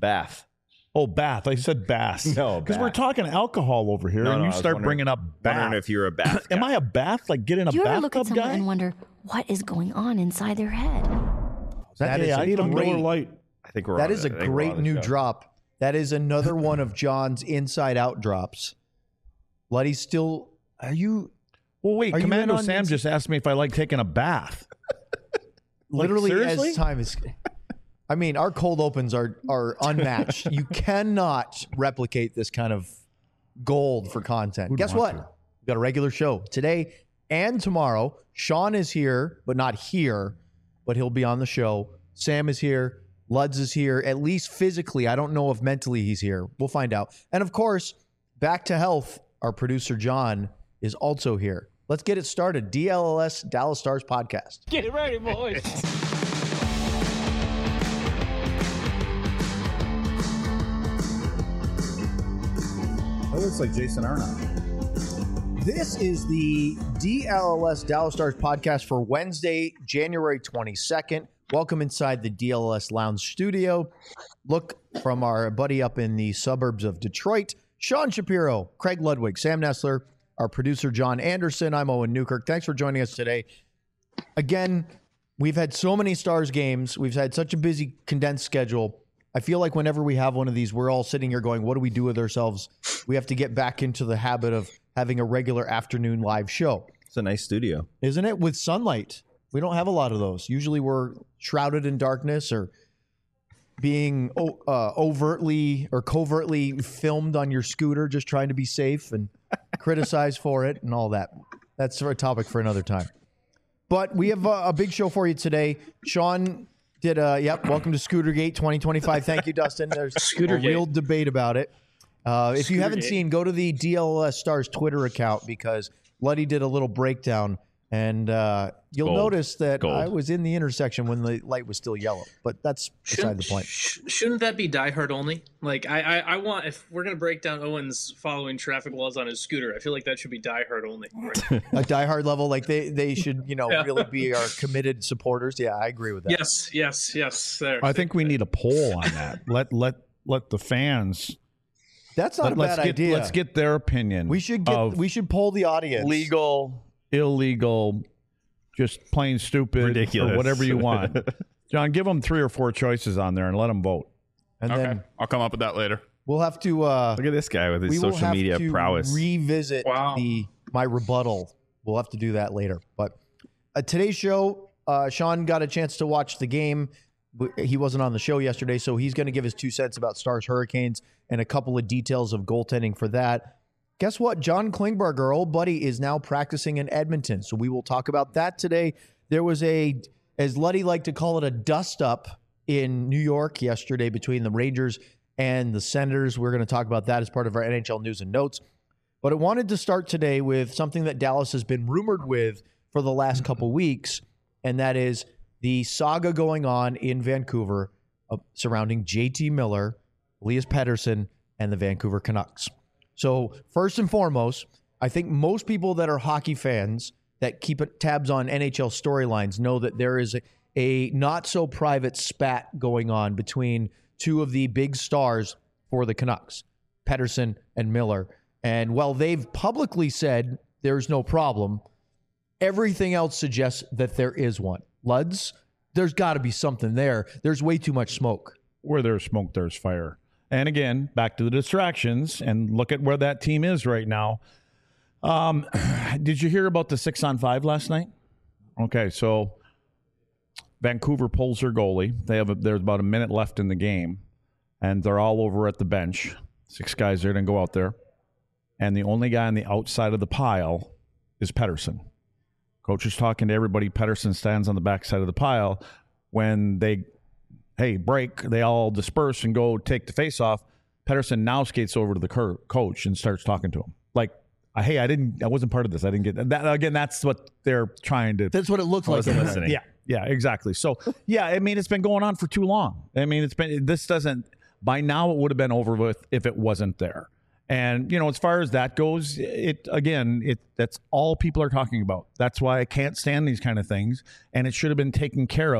Bath. Oh, bath. I said bass. No, because bath. we're talking alcohol over here, and you start bringing up bath. Wondering if you're a bath guy. Am I a bath? Like get in a Do you ever look at bathtub someone guy? and wonder what is going on inside their head? That is I a need a great- Miller Light. I think we're That on is it. a I think we're great on the new show. drop. That is another one of John's inside out drops. Luddy's still. Are you Well, wait. Are you Commando in on Sam this? just asked me if I like taking a bath. literally seriously? as time is? I mean, our cold opens are unmatched. You cannot replicate this kind of gold for content. Who'd Guess want what? to? We've got a regular show today and tomorrow. Sean is here, but not here, but he'll be on the show. Sam is here. Luds is here, at least physically. I don't know if mentally he's here. We'll find out. And of course, back to health. Our producer, John, is also here. Let's get it started. DLLS, Dallas Stars podcast. Get it ready, boys. That looks like Jason Arnott. This is the DLLS Dallas Stars podcast for Wednesday, January 22nd. Welcome inside the DLLS Lounge studio. Look from our buddy up in the suburbs of Detroit, Sean Shapiro, Craig Ludwig, Sam Nestler, our producer, John Anderson. I'm Owen Newkirk. Thanks for joining us today. Again, we've had so many Stars games. We've had such a busy, condensed schedule. I feel like whenever we have one of these, we're all sitting here going, what do we do with ourselves? We have to get back into the habit of having a regular afternoon live show. It's a nice studio. Isn't it? With sunlight. We don't have a lot of those. Usually we're shrouded in darkness or being overtly or covertly filmed on your scooter, just trying to be safe and criticized for it and all that. That's a topic for another time. But we have a big show for you today. Sean did welcome to Scootergate 2025. Thank you, Dustin. There's a real debate about it. If you haven't seen, go to the DLS Stars Twitter account because Luddy did a little breakdown, and you'll notice that I was in the intersection when the light was still yellow. But that's beside the point. Shouldn't that be diehard only? Like, I want, if we're going to break down Owen's following traffic laws on his scooter, I feel like that should be diehard only. A diehard level, like they should, really be our committed supporters. Yeah, I agree with that. Yes. There. I think we need a poll on that. Let the fans. That's not a bad idea. Let's get their opinion. We should poll the audience. Legal, illegal, just plain stupid, Ridiculous. or whatever you want. John, give them 3 or 4 choices on there and let them vote. And then I'll come up with that later. we'll have to Look at this guy with his we will social have media to prowess. revisit my rebuttal. We'll have to do that later. But today's show, Sean got a chance to watch the game. He wasn't on the show yesterday, so he's going to give his 2 cents about Stars Hurricanes and a couple of details of goaltending for that. Guess what? John Klingberg, our old buddy, is now practicing in Edmonton, so we will talk about that today. There was as Luddy liked to call it, a dust-up in New York yesterday between the Rangers and the Senators. We're going to talk about that as part of our NHL news and notes. But I wanted to start today with something that Dallas has been rumored with for the last couple weeks, and that is the saga going on in Vancouver surrounding JT Miller, Elias Pettersson, and the Vancouver Canucks. So first and foremost, I think most people that are hockey fans that keep tabs on NHL storylines know that there is a not-so-private spat going on between 2 of the big stars for the Canucks, Pettersson and Miller. And while they've publicly said there's no problem, everything else suggests that there is one. Luds, there's got to be something there. There's way too much smoke. Where there's smoke, there's fire. And again, back to the distractions and look at where that team is right now. Did you hear about the 6-on-5 last night? Okay, so Vancouver pulls their goalie. There's about a minute left in the game, and they're all over at the bench. 6 guys there didn't go out there. And the only guy on the outside of the pile is Pettersson. Coach is talking to everybody. Pettersson stands on the backside of the pile. When they break, they all disperse and go take the face off. Pettersson now skates over to the coach and starts talking to him. Like, hey, I wasn't part of this. I didn't get that. Again, that's what they're trying to. That's what it looks like. Wasn't listening. Yeah, exactly. So, yeah, I mean, it's been going on for too long. I mean, by now it would have been over with if it wasn't there. And, as far as that goes, that's all people are talking about. That's why I can't stand these kind of things. And it should have been taken care of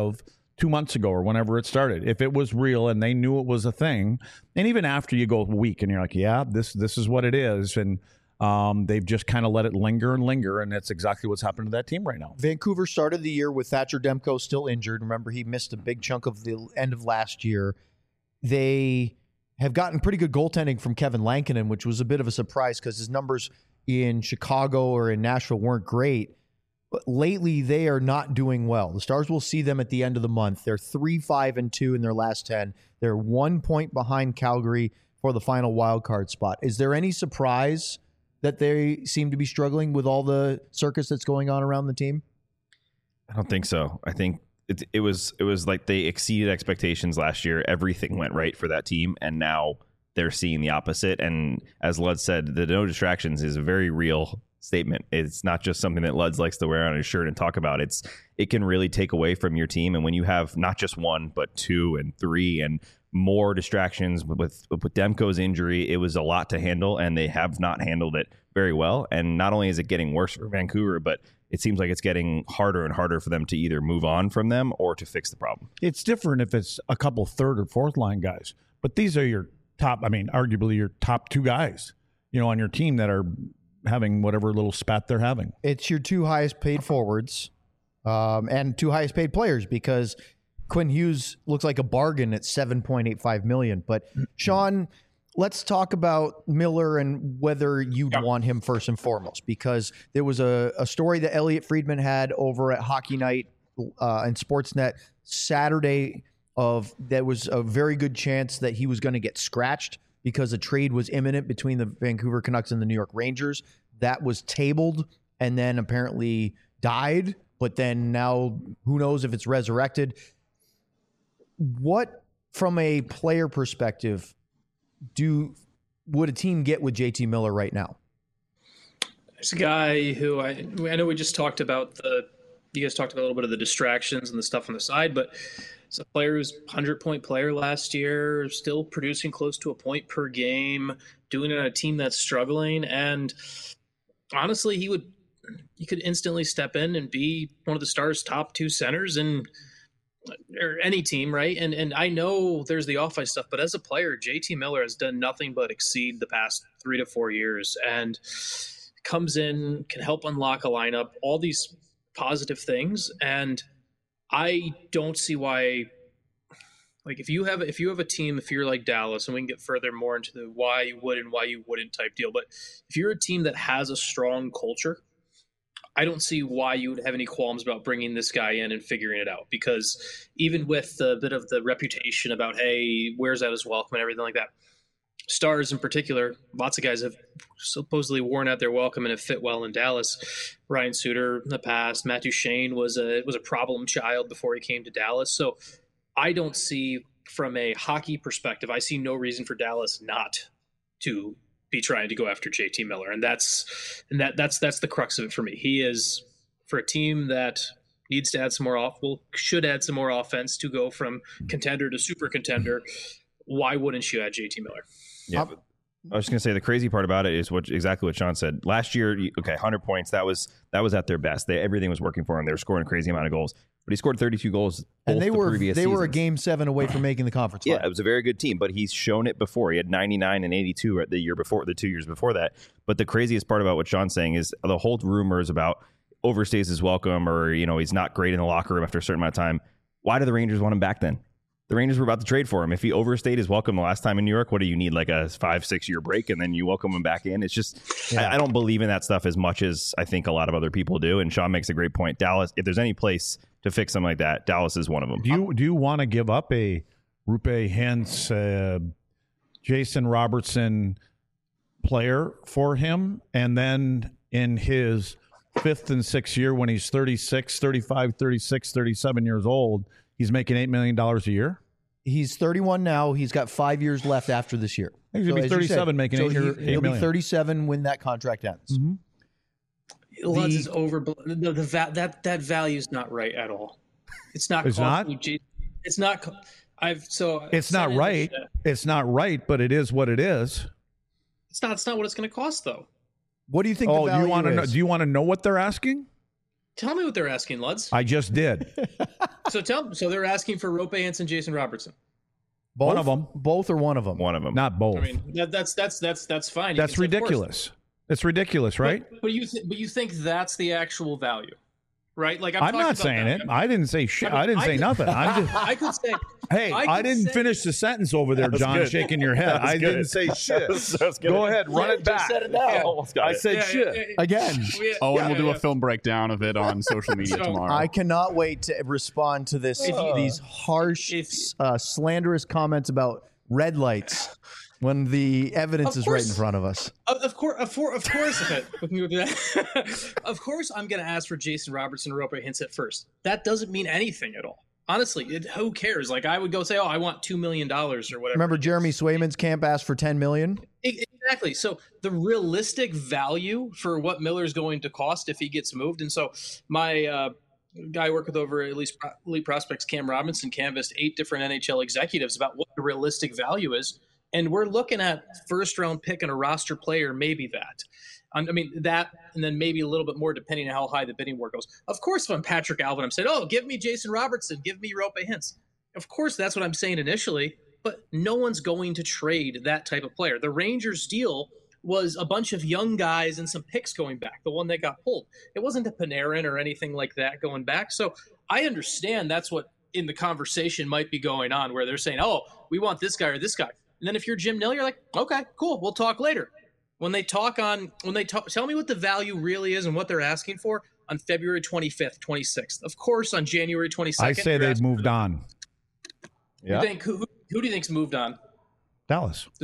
2 months ago or whenever it started. If it was real and they knew it was a thing, and even after you go a week and you're like, yeah, this is what it is, and they've just kind of let it linger, and that's exactly what's happened to that team right now. Vancouver started the year with Thatcher Demko still injured. Remember, he missed a big chunk of the end of last year. They have gotten pretty good goaltending from Kevin Lankinen, which was a bit of a surprise because his numbers in Chicago or in Nashville weren't great. But lately, they are not doing well. The Stars will see them at the end of the month. They're 3-5-2 in their last 10. They're 1 point behind Calgary for the final wild card spot. Is there any surprise that they seem to be struggling with all the circus that's going on around the team? I don't think so. I think it was like they exceeded expectations last year. Everything went right for that team, and now they're seeing the opposite. And as Lud said, the no distractions is a very real statement. It's not just something that Luds likes to wear on his shirt and talk about. It can really take away from your team. And when you have not just 1, but 2 and 3 and more distractions with Demko's injury, it was a lot to handle, and they have not handled it very well. And not only is it getting worse for Vancouver, but it seems like it's getting harder and harder for them to either move on from them or to fix the problem. It's different if it's a couple third or fourth line guys, but these are your top, arguably your top 2 guys, on your team that are having whatever little spat they're having. It's your 2 highest paid forwards and 2 highest paid players, because Quinn Hughes looks like a bargain at $7.85 million. But Sean, let's talk about Miller and whether you'd want him first and foremost, because there was a story that Elliot Friedman had over at Hockey Night and Sportsnet Saturday there was a very good chance that he was going to get scratched because a trade was imminent between the Vancouver Canucks and the New York Rangers. That was tabled and then apparently died, but then now who knows if it's resurrected. What, from a player perspective, would a team get with JT Miller right now? There's a guy who I know we just talked about you guys talked about a little bit of the distractions and the stuff on the side, but it's a player who's 100-point player last year, still producing close to a point per game, doing it on a team that's struggling. And honestly, he could instantly step in and be one of the Stars' top 2 centers or any team, right? And I know there's the off-ice stuff, but as a player, JT Miller has done nothing but exceed the past 3 to 4 years, and comes in, can help unlock a lineup, all these positive things. And I don't see why, like, if you have a team, if you're like Dallas, and we can get further more into the why you would and why you wouldn't type deal, but if you're a team that has a strong culture, I don't see why you would have any qualms about bringing this guy in and figuring it out, because even with the bit of the reputation about, hey, where's out his welcome and everything like that, Stars in particular, lots of guys have supposedly worn out their welcome and have fit well in Dallas. Ryan Suter in the past, Matt Duchene was a problem child before he came to Dallas. So I don't see, from a hockey perspective, I see no reason for Dallas not to be trying to go after JT Miller. And that's the crux of it for me. He is, for a team that needs to add some more should add some more offense to go from contender to super contender, why wouldn't you add JT Miller? Yeah, I was just gonna say the crazy part about it is exactly what Sean said. Last year, 100 points. That was at their best. Everything was working for him. They were scoring a crazy amount of goals, but he scored 32 goals. And they were a Game 7 away from making the conference. Yeah, it was a very good team, but he's shown it before. He had 99 and 82 the year before, the 2 years before that. But the craziest part about what Sean's saying is the whole rumors about overstays his welcome, or he's not great in the locker room after a certain amount of time. Why do the Rangers want him back then? The Rangers were about to trade for him. If he overstayed his welcome the last time in New York, what do you need, like a 5-6 year break, and then you welcome him back in? It's just, I don't believe in that stuff as much as I think a lot of other people do. And Sean makes a great point. Dallas, if there's any place to fix something like that, Dallas is one of them. Do you want to give up a Rupe Hintz, Jason Robertson player for him, and then in his 5th and 6th year, when he's 36, 35, 36, 37 years old, he's making $8 million a year? He's 31 now. He's got 5 years left after this year. He's going to be 37 making $8 million. He'll be 37 when that contract ends. Mm-hmm. Luds is over. That value is not right at all. It's not. It's not? It's not. It's not right. It's not right, but it is what it is. It's not what it's going to cost, though. What do you think the value is? Do you want to know what they're asking? Tell me what they're asking, Luds. I just did. So they're asking for Rope Hansen, Jason Robertson. Both? One of them. Both or one of them? One of them. Not both. I mean, that's fine. You That's can say, of course. ridiculous. It's ridiculous, right? But you think that's the actual value, right? Like I'm not saying it. I didn't say shit. I didn't say nothing. I'm just. I could say. Hey, I didn't finish the sentence over there, John, good. shaking your head. I didn't say shit. Go ahead, run it back. Said it now. I said shit. Again. Owen will do a film breakdown of it on social media tomorrow. I cannot wait to respond to these harsh, slanderous comments about red lights when the evidence is right in front of us. Of course, okay, we can go do that. Of course, I'm going to ask for Jason Robertson, Rope Hansen first. That doesn't mean anything at all. Honestly, who cares? Like, I would go say, I want $2 million or whatever. Remember, Jeremy Swayman's camp asked for $10 million? Exactly. So the realistic value for what Miller's going to cost if he gets moved. And so my guy I work with over at Elite Prospects, Cam Robinson, canvassed 8 different NHL executives about what the realistic value is. And we're looking at first-round pick and a roster player, maybe that. I mean, that, and then maybe a little bit more depending on how high the bidding war goes. Of course, if I'm Patrick Alvin, I'm saying, give me Jason Robertson, give me Rope Hintz. Of course, that's what I'm saying initially, but no one's going to trade that type of player. The Rangers deal was a bunch of young guys and some picks going back, the one that got pulled. It wasn't a Panarin or anything like that going back. So I understand that's what in the conversation might be going on, where they're saying, we want this guy or this guy. And then if you're Jim Nill, you're like, okay, cool, we'll talk later. When they tell me what the value really is and what they're asking for on February 25th, 26th. Of course, on January 22nd. I say they've moved on. Yeah. Who do you think's moved on? Dallas. Do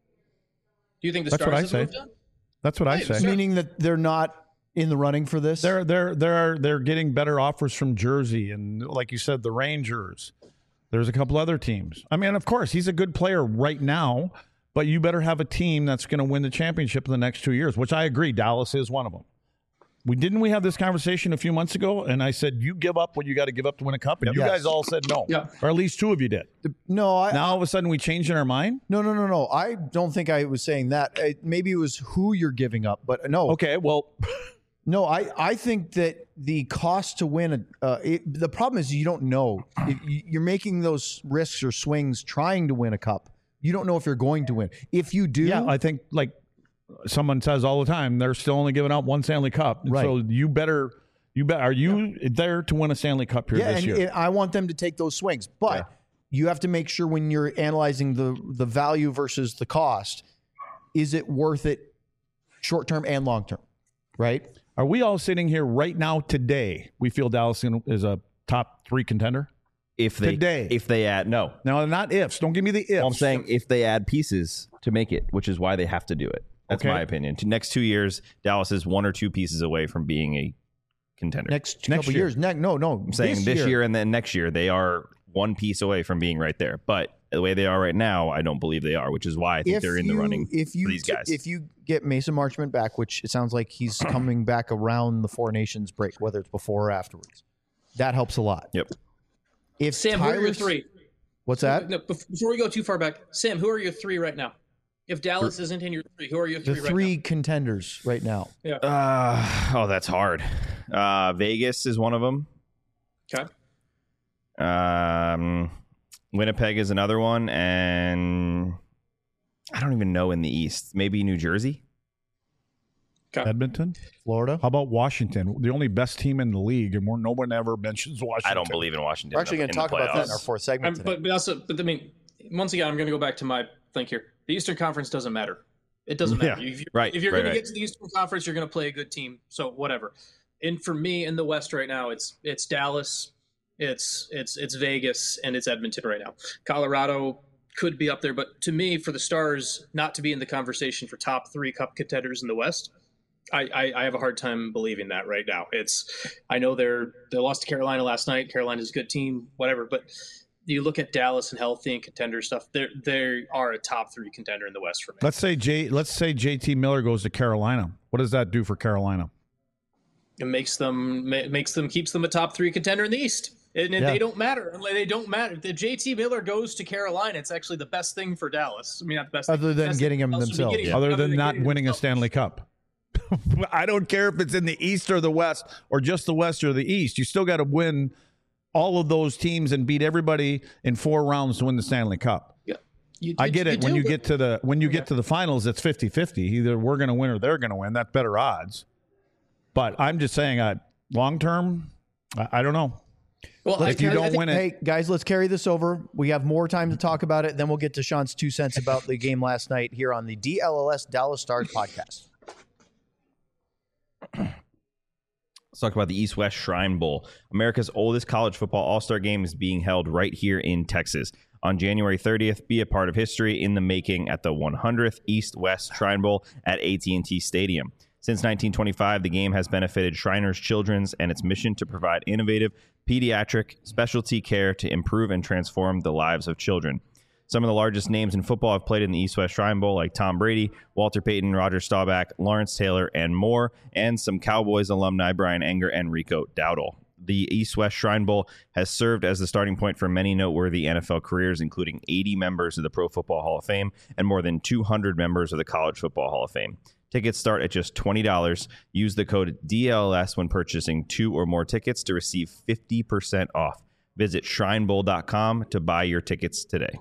you think the That's Stars what I have say. moved on? That's what I Hey, say. sir. Meaning that they're not in the running for this? They're getting better offers from Jersey and, like you said, the Rangers. There's a couple other teams. I mean, of course, he's a good player right now, but you better have a team that's going to win the championship in the next 2 years, which I agree. Dallas is one of them. We have this conversation a few months ago, and I said, you give up what you got to give up to win a cup, and you Yes. guys all said no. Yeah. Or at least 2 of you did. No, Now all of a sudden we changed in our mind? No. I don't think I was saying that. Maybe it was who you're giving up, but no. Okay, well, No, I think that the cost to win, the problem is you don't know. You're making those risks or swings trying to win a cup. You don't know if you're going to win. If you do, yeah, I think like someone says all the time, they're still only giving out 1 Stanley Cup. Right. So you better, are you there to win a Stanley Cup here this year? and I want them to take those swings. But you have to make sure when you're analyzing the value versus the cost, is it worth it short term and long term, right? Are we all sitting here right now today? We feel Dallas is a top 3 contender? If they add no. No, not ifs. Don't give me the ifs. Well, I'm saying if they add pieces to make it, which is why they have to do it. That's Okay. my opinion. Next 2 years, Dallas is 1 or 2 pieces away from being a contender. Next couple year. years. No. I'm saying this year and then next year, they are 1 piece away from being right there. But the way they are right now, I don't believe they are, which is why I think they're in the running for these guys. If you get Mason Marchment back, which it sounds like he's coming back around the Four Nations break, whether it's before or afterwards, that helps a lot. Yep. If Sam, who are your Tyler's- 3? What's that? No, before we go too far back, Sam, who are your 3 right now? If Dallas isn't in your 3, who are your 3 The right 3 contenders right now. now? Yeah. That's hard. Vegas is one of them. Okay. Winnipeg is another one, and I don't even know in the East. Maybe New Jersey. Okay. Edmonton? Florida. How about Washington? The only best team in the league, and no one ever mentions Washington. I don't believe in Washington. We're actually going to talk about that in our fourth segment today. But I mean, once again, I'm going to go back to my thing here. The Eastern Conference doesn't matter. It doesn't matter. Yeah. If you're going to get to the Eastern Conference, you're going to play a good team. So whatever. And for me in the West right now, it's Dallas, it's Vegas, and it's Edmonton right now. Colorado could be up there, but to me, for the Stars not to be in the conversation for top 3 cup contenders in the West, I have a hard time believing that right now. I know they lost to Carolina last night. Carolina's a good team, whatever, but you look at Dallas and healthy and contender stuff, they are a top 3 contender in the West for me. Let's say JT Miller goes to Carolina. What does that do for Carolina? It keeps them a top 3 contender in the East. And they don't matter. They don't matter. If JT Miller goes to Carolina, it's actually the best thing for Dallas. I mean, not the best Other thing. than Best getting thing him else would be themselves. getting Other him. than not getting winning a themselves. Stanley Cup. I don't care if it's in the East or the West or just the West or the East. You still got to win all of those teams and beat everybody in 4 rounds to win the Stanley Cup. Yeah. I get it. When you get to the finals, it's 50-50. Either we're going to win or they're going to win. That's better odds. But I'm just saying, long term, I don't know. Well, if you don't win it, hey guys, let's carry this over. We have more time to talk about it. Then we'll get to Sean's 2 cents about the game last night here on the DLLS Dallas Stars podcast. Let's talk about the East-West Shrine Bowl. America's oldest college football all-star game is being held right here in Texas. On January 30th, be a part of history in the making at the 100th East-West Shrine Bowl at AT&T Stadium. Since 1925, the game has benefited Shriners Children's and its mission to provide innovative pediatric specialty care to improve and transform the lives of children. Some of the largest names in football have played in the East-West Shrine Bowl, like Tom Brady, Walter Payton, Roger Staubach, Lawrence Taylor, and more, and some Cowboys alumni, Brian Enger and Rico Dowdle. The East-West Shrine Bowl has served as the starting point for many noteworthy NFL careers, including 80 members of the Pro Football Hall of Fame and more than 200 members of the College Football Hall of Fame. Tickets start at just $20. Use the code DLS when purchasing 2 or more tickets to receive 50% off. Visit shrinebowl.com to buy your tickets today.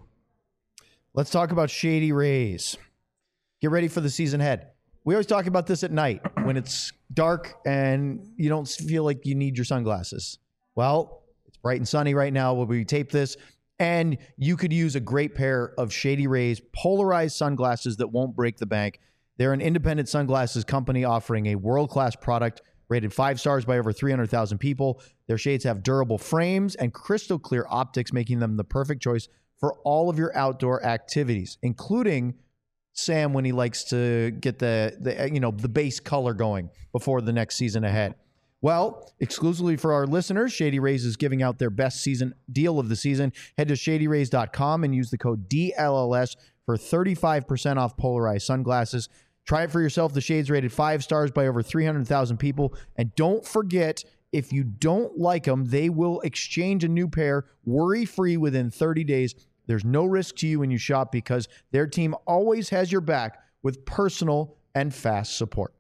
Let's talk about Shady Rays. Get ready for the season ahead. We always talk about this at night when it's dark and you don't feel like you need your sunglasses. Well, it's bright and sunny right now when we tape this, and you could use a great pair of Shady Rays polarized sunglasses that won't break the bank. They're an independent sunglasses company offering a world-class product rated 5 stars by over 300,000 people. Their shades have durable frames and crystal clear optics, making them the perfect choice for all of your outdoor activities, including Sam when he likes to get the base color going before the next season ahead. Well, exclusively for our listeners, Shady Rays is giving out their best season deal of the season. Head to shadyrays.com and use the code DLLS for 35% off polarized sunglasses. Try it for yourself. The shades rated 5 stars by over 300,000 people. And don't forget, if you don't like them, they will exchange a new pair worry-free within 30 days. There's no risk to you when you shop because their team always has your back with personal and fast support.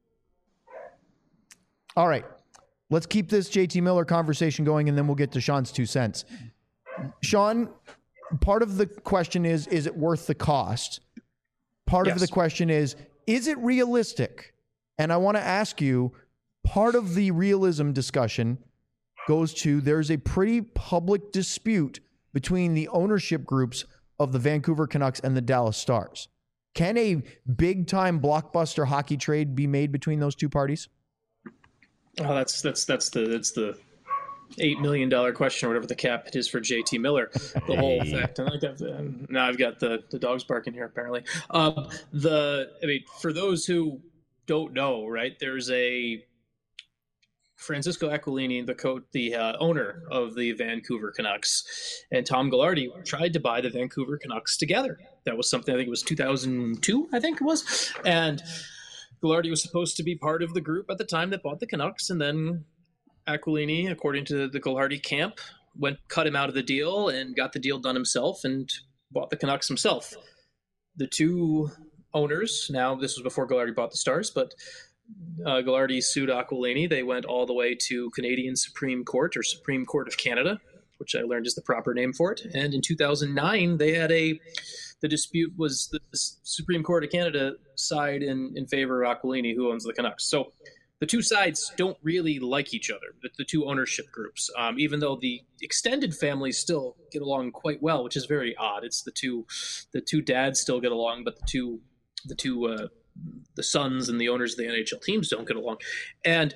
All right, let's keep this JT Miller conversation going, and then we'll get to Sean's 2 cents. Sean, part of the question is it worth the cost? Part of the question is it realistic? And I want to ask you, part of the realism discussion goes to there's a pretty public dispute between the ownership groups of the Vancouver Canucks and the Dallas Stars. Can a big-time blockbuster hockey trade be made between those two parties? Oh, that's the $8 million question or whatever the cap it is for JT Miller. The whole fact, and now I've got the dogs barking here apparently. For those who don't know, right? There's a Francisco Aquilini, the owner of the Vancouver Canucks, and Tom Gaglardi tried to buy the Vancouver Canucks together. That was something, I think it was 2002, I think it was. And Gaglardi was supposed to be part of the group at the time that bought the Canucks, and then Aquilini, according to the Gaglardi camp, cut him out of the deal and got the deal done himself and bought the Canucks himself. The two owners, now this was before Gaglardi bought the Stars, but Gaglardi sued Aquilini. They went all the way to Canadian Supreme Court, or Supreme Court of Canada, which I learned is the proper name for it. And in 2009, they had the dispute was the Supreme Court of Canada side in favor of Aquilini, who owns the Canucks. So the two sides don't really like each other, the two ownership groups, even though the extended families still get along quite well, which is very odd. It's the two dads still get along, but the sons and the owners of the NHL teams don't get along. And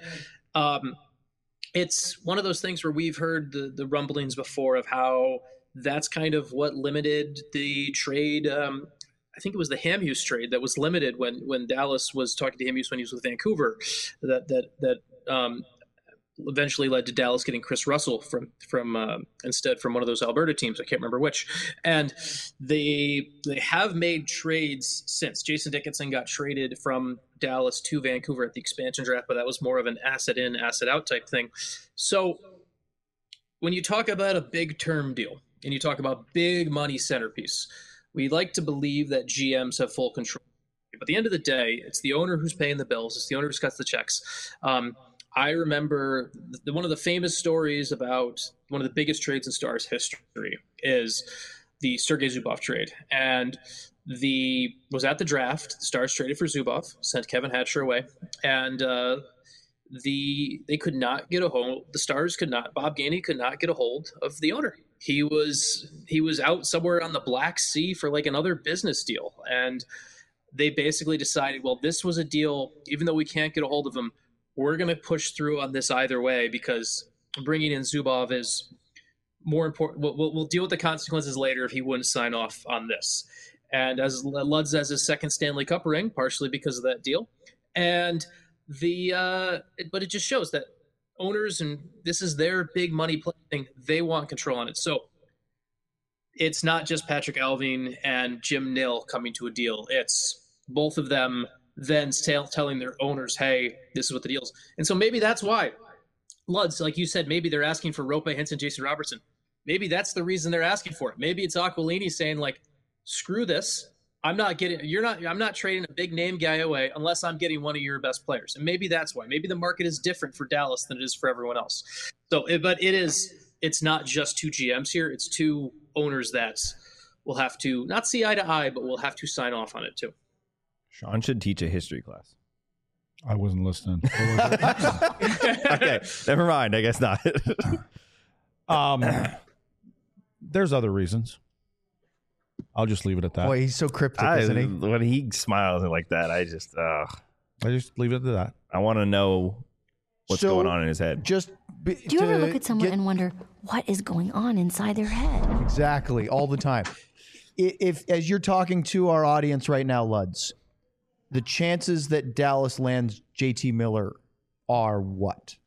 it's one of those things where we've heard the rumblings before of how that's kind of what limited the trade. I think it was the Hamhuis trade that was limited when Dallas was talking to Hamhuis when he was with Vancouver, that eventually led to Dallas getting Chris Russell from instead from one of those Alberta teams. I can't remember which. And they have made trades since. Jason Dickinson got traded from Dallas to Vancouver at the expansion draft, but that was more of an asset in, asset out type thing. So when you talk about a big term deal and you talk about big money centerpiece, we like to believe that GMs have full control. But at the end of the day, it's the owner who's paying the bills. It's the owner who cuts the checks. I remember one of the famous stories about one of the biggest trades in Stars history is the Sergei Zubov trade. And was at the draft. The Stars traded for Zubov, sent Kevin Hatcher away, and they could not get a hold. The Stars could not. Bob Gainey could not get a hold of the owner. He was out somewhere on the Black Sea for like another business deal, and they basically decided, well, this was a deal. Even though we can't get a hold of him, we're going to push through on this either way because bringing in Zubov is more important. We'll deal with the consequences later if he wouldn't sign off on this. And as Luds has his second Stanley Cup ring, partially because of that deal. And but it just shows that owners, and this is their big money thing, they want control on it. So it's not just Patrick Allvin and Jim Nill coming to a deal. It's both of them then telling their owners, hey, this is what the deal is. And so maybe that's why Luds, like you said, maybe they're asking for Rope, Henson, Jason Robertson. Maybe that's the reason they're asking for it. Maybe it's Aquilini saying, like, screw this. I'm not trading a big name guy away unless I'm getting one of your best players. And maybe that's why. Maybe the market is different for Dallas than it is for everyone else. So, it's not just two GMs here. It's two owners that will have to not see eye to eye, but will have to sign off on it too. Sean should teach a history class. I wasn't listening. Okay, never mind. I guess not. There's other reasons. I'll just leave it at that. Boy, he's so cryptic, isn't he? When he smiles like that, I just leave it at that. I want to know what's going on in his head. Do you ever look at someone and wonder what is going on inside their head? Exactly, all the time. If as you're talking to our audience right now, Luds, the chances that Dallas lands JT Miller are what?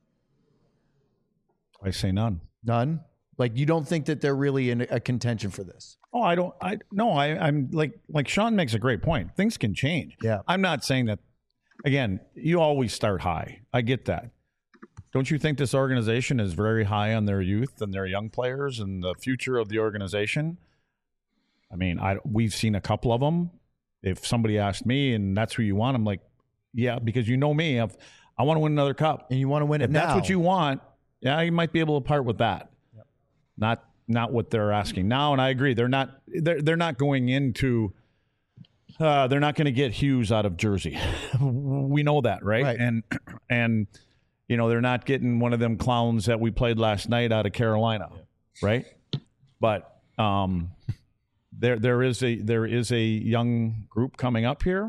I say none. None? Like, you don't think that they're really in a contention for this? Oh, I don't. I'm like Sean makes a great point. Things can change. Yeah. I'm not saying that. Again, you always start high. I get that. Don't you think this organization is very high on their youth and their young players and the future of the organization? I mean, we've seen a couple of them. If somebody asked me and that's who you want, I'm like, yeah, because you know me. I want to win another cup. And you want to win it now. If that's what you want, yeah, you might be able to part with that. Yep. Not what they're asking now. And I agree. They're not going into they're not going to get Hughes out of Jersey. We know that, right? And you know, they're not getting one of them clowns that we played last night out of Carolina, right? But there is a young group coming up here.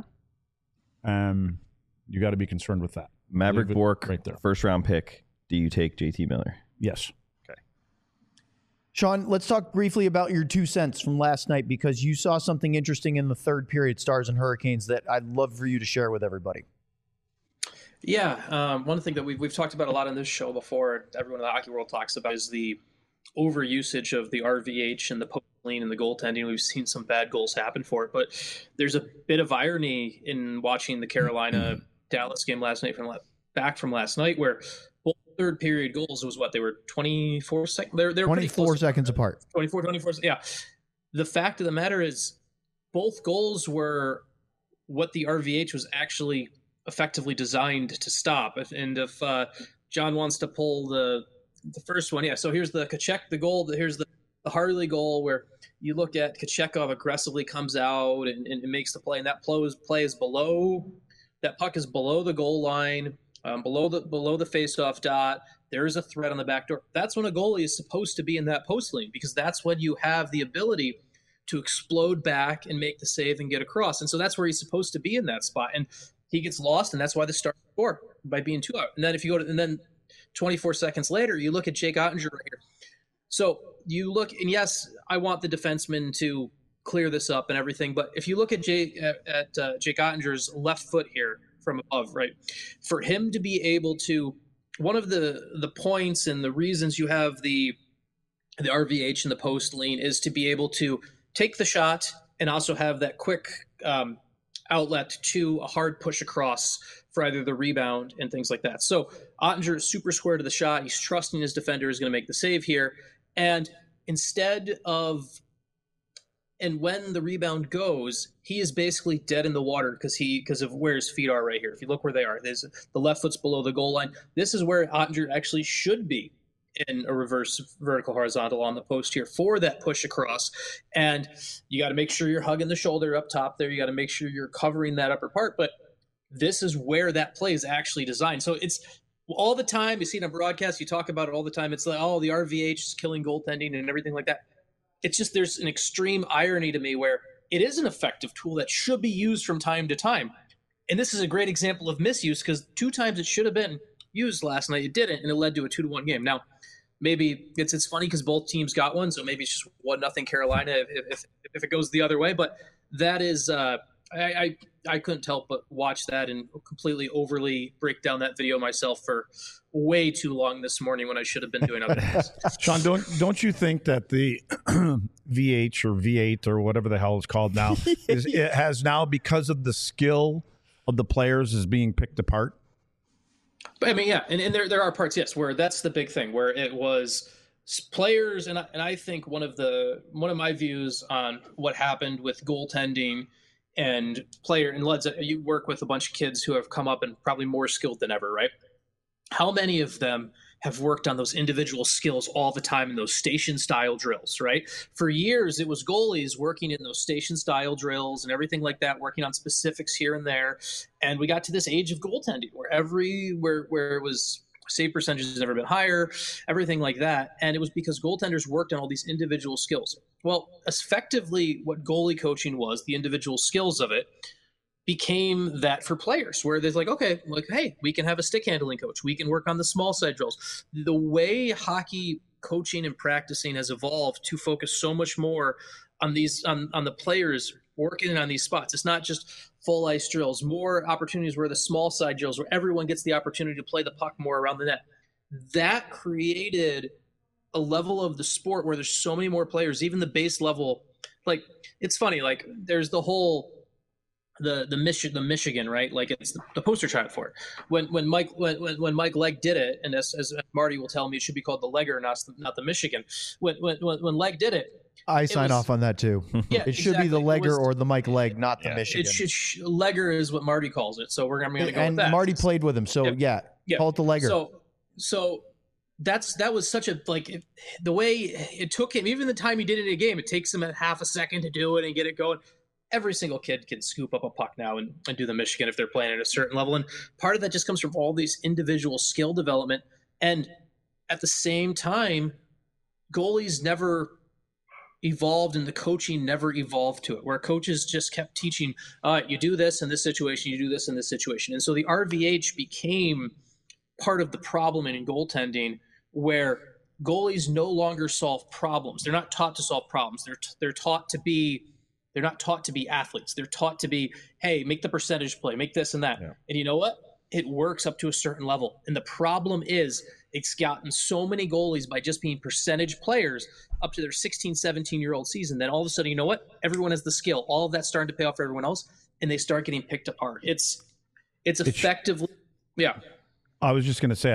You got to be concerned with that. Maverick Bork, right there. First round pick. Do you take JT Miller? Yes. Okay. Sean, let's talk briefly about your 2 cents from last night, because you saw something interesting in the third period, Stars and Hurricanes, that I'd love for you to share with everybody. Yeah, one thing that we've talked about a lot on this show before, everyone in the hockey world talks about, is the overusage of the RVH and the post lean and the goaltending. We've seen some bad goals happen for it, but there's a bit of irony in watching the Carolina Dallas game last night from last night, where both third period goals was what they were 24 seconds. They're 24 seconds apart. 24. Yeah. The fact of the matter is, both goals were what the RVH was actually effectively designed to stop. And if John wants to pull the first one, yeah. So here's the Tkachuk, the goal. Here's the Harley goal, where you look at Tkachukov aggressively comes out and makes the play, and that play is below. That puck is below the goal line, below the faceoff dot. There is a threat on the back door. That's when a goalie is supposed to be in that post lane, because that's when you have the ability to explode back and make the save and get across. And so that's where he's supposed to be in that spot. And he gets lost, and that's why the Stars score by being 2 out. And then if you go to, and then 24 seconds later, you look at Jake Ottinger right here. So you look, and yes, I want the defenseman to clear this up and everything, but if you look at Jake Ottinger's left foot here from above, right, for him to be able to, one of the points and the reasons you have the RVH and the post lean is to be able to take the shot and also have that quick outlet to a hard push across for either the rebound and things like that. So Ottinger is super square to the shot. He's trusting his defender is going to make the save here. And instead of And when the rebound goes, he is basically dead in the water because of where his feet are right here. If you look where they are, there's the left foot's below the goal line. This is where Oettinger actually should be in a reverse vertical horizontal on the post here for that push across. And you got to make sure you're hugging the shoulder up top there. You got to make sure you're covering that upper part. But this is where that play is actually designed. So it's all the time. You see it on broadcast. You talk about it all the time. It's like, oh, the RVH is killing goaltending and everything like that. It's just there's an extreme irony to me where it is an effective tool that should be used from time to time. And this is a great example of misuse because 2 times it should have been used last night. It didn't, and it led to a 2-1 game. Now, maybe it's funny because both teams got one, so maybe it's just 1-0 Carolina if it goes the other way. But that is I couldn't help but watch that and completely overly break down that video myself for way too long this morning when I should have been doing other things. Sean, don't you think that the VH or V8 or whatever the hell it's called now it has now, because of the skill of the players, is being picked apart? But I mean, yeah, and there are parts, yes, where that's the big thing, where it was players, and I think one of my views on what happened with goaltending and player, and Leds, you work with a bunch of kids who have come up and probably more skilled than ever, right? How many of them have worked on those individual skills all the time in those station style drills, right? For years, it was goalies working in those station style drills and everything like that, working on specifics here and there. And we got to this age of goaltending where where it was save percentage has never been higher, everything like that. And it was because goaltenders worked on all these individual skills. Well, effectively what goalie coaching was, the individual skills of it, became that for players where there's like, okay, like, hey, we can have a stick handling coach. We can work on the small side drills. The way hockey coaching and practicing has evolved to focus so much more on these, on the players working on these spots. It's not just full ice drills, more opportunities where the small side drills, where everyone gets the opportunity to play the puck more around the net. That created a level of the sport where there's so many more players, even the base level. Like, it's funny, like there's the whole, the Michigan, right? Like it's the poster child for it. When Mike Legg did it, and as Marty will tell me, it should be called the Legger, not the Michigan. When Legg did it, I sign off on that too. Yeah, it should be the Legger or the Mike Legg, not the Michigan. Legger is what Marty calls it, so I'm going to go with that. And Marty played with him, so yeah, call it the Legger. So that was such a, like, the way it took him, even the time he did it in a game, it takes him a half a second to do it and get it going. Every single kid can scoop up a puck now and do the Michigan if they're playing at a certain level. And part of that just comes from all these individual skill development. And at the same time, goalies never evolved and the coaching never evolved to it, where coaches just kept teaching, you do this in this situation, you do this in this situation. And so the RVH became part of the problem in goaltending, where goalies no longer solve problems. They're not taught to solve problems. They're taught to be, they're not taught to be athletes. They're taught to be, hey, make the percentage play, make this and that. Yeah. And you know what? It works up to a certain level. And the problem is it's gotten so many goalies by just being percentage players up to their 16, 17-year-old season. Then all of a sudden, you know what? Everyone has the skill. All of that's starting to pay off for everyone else, and they start getting picked apart. It's effectively, yeah. I was just going to say,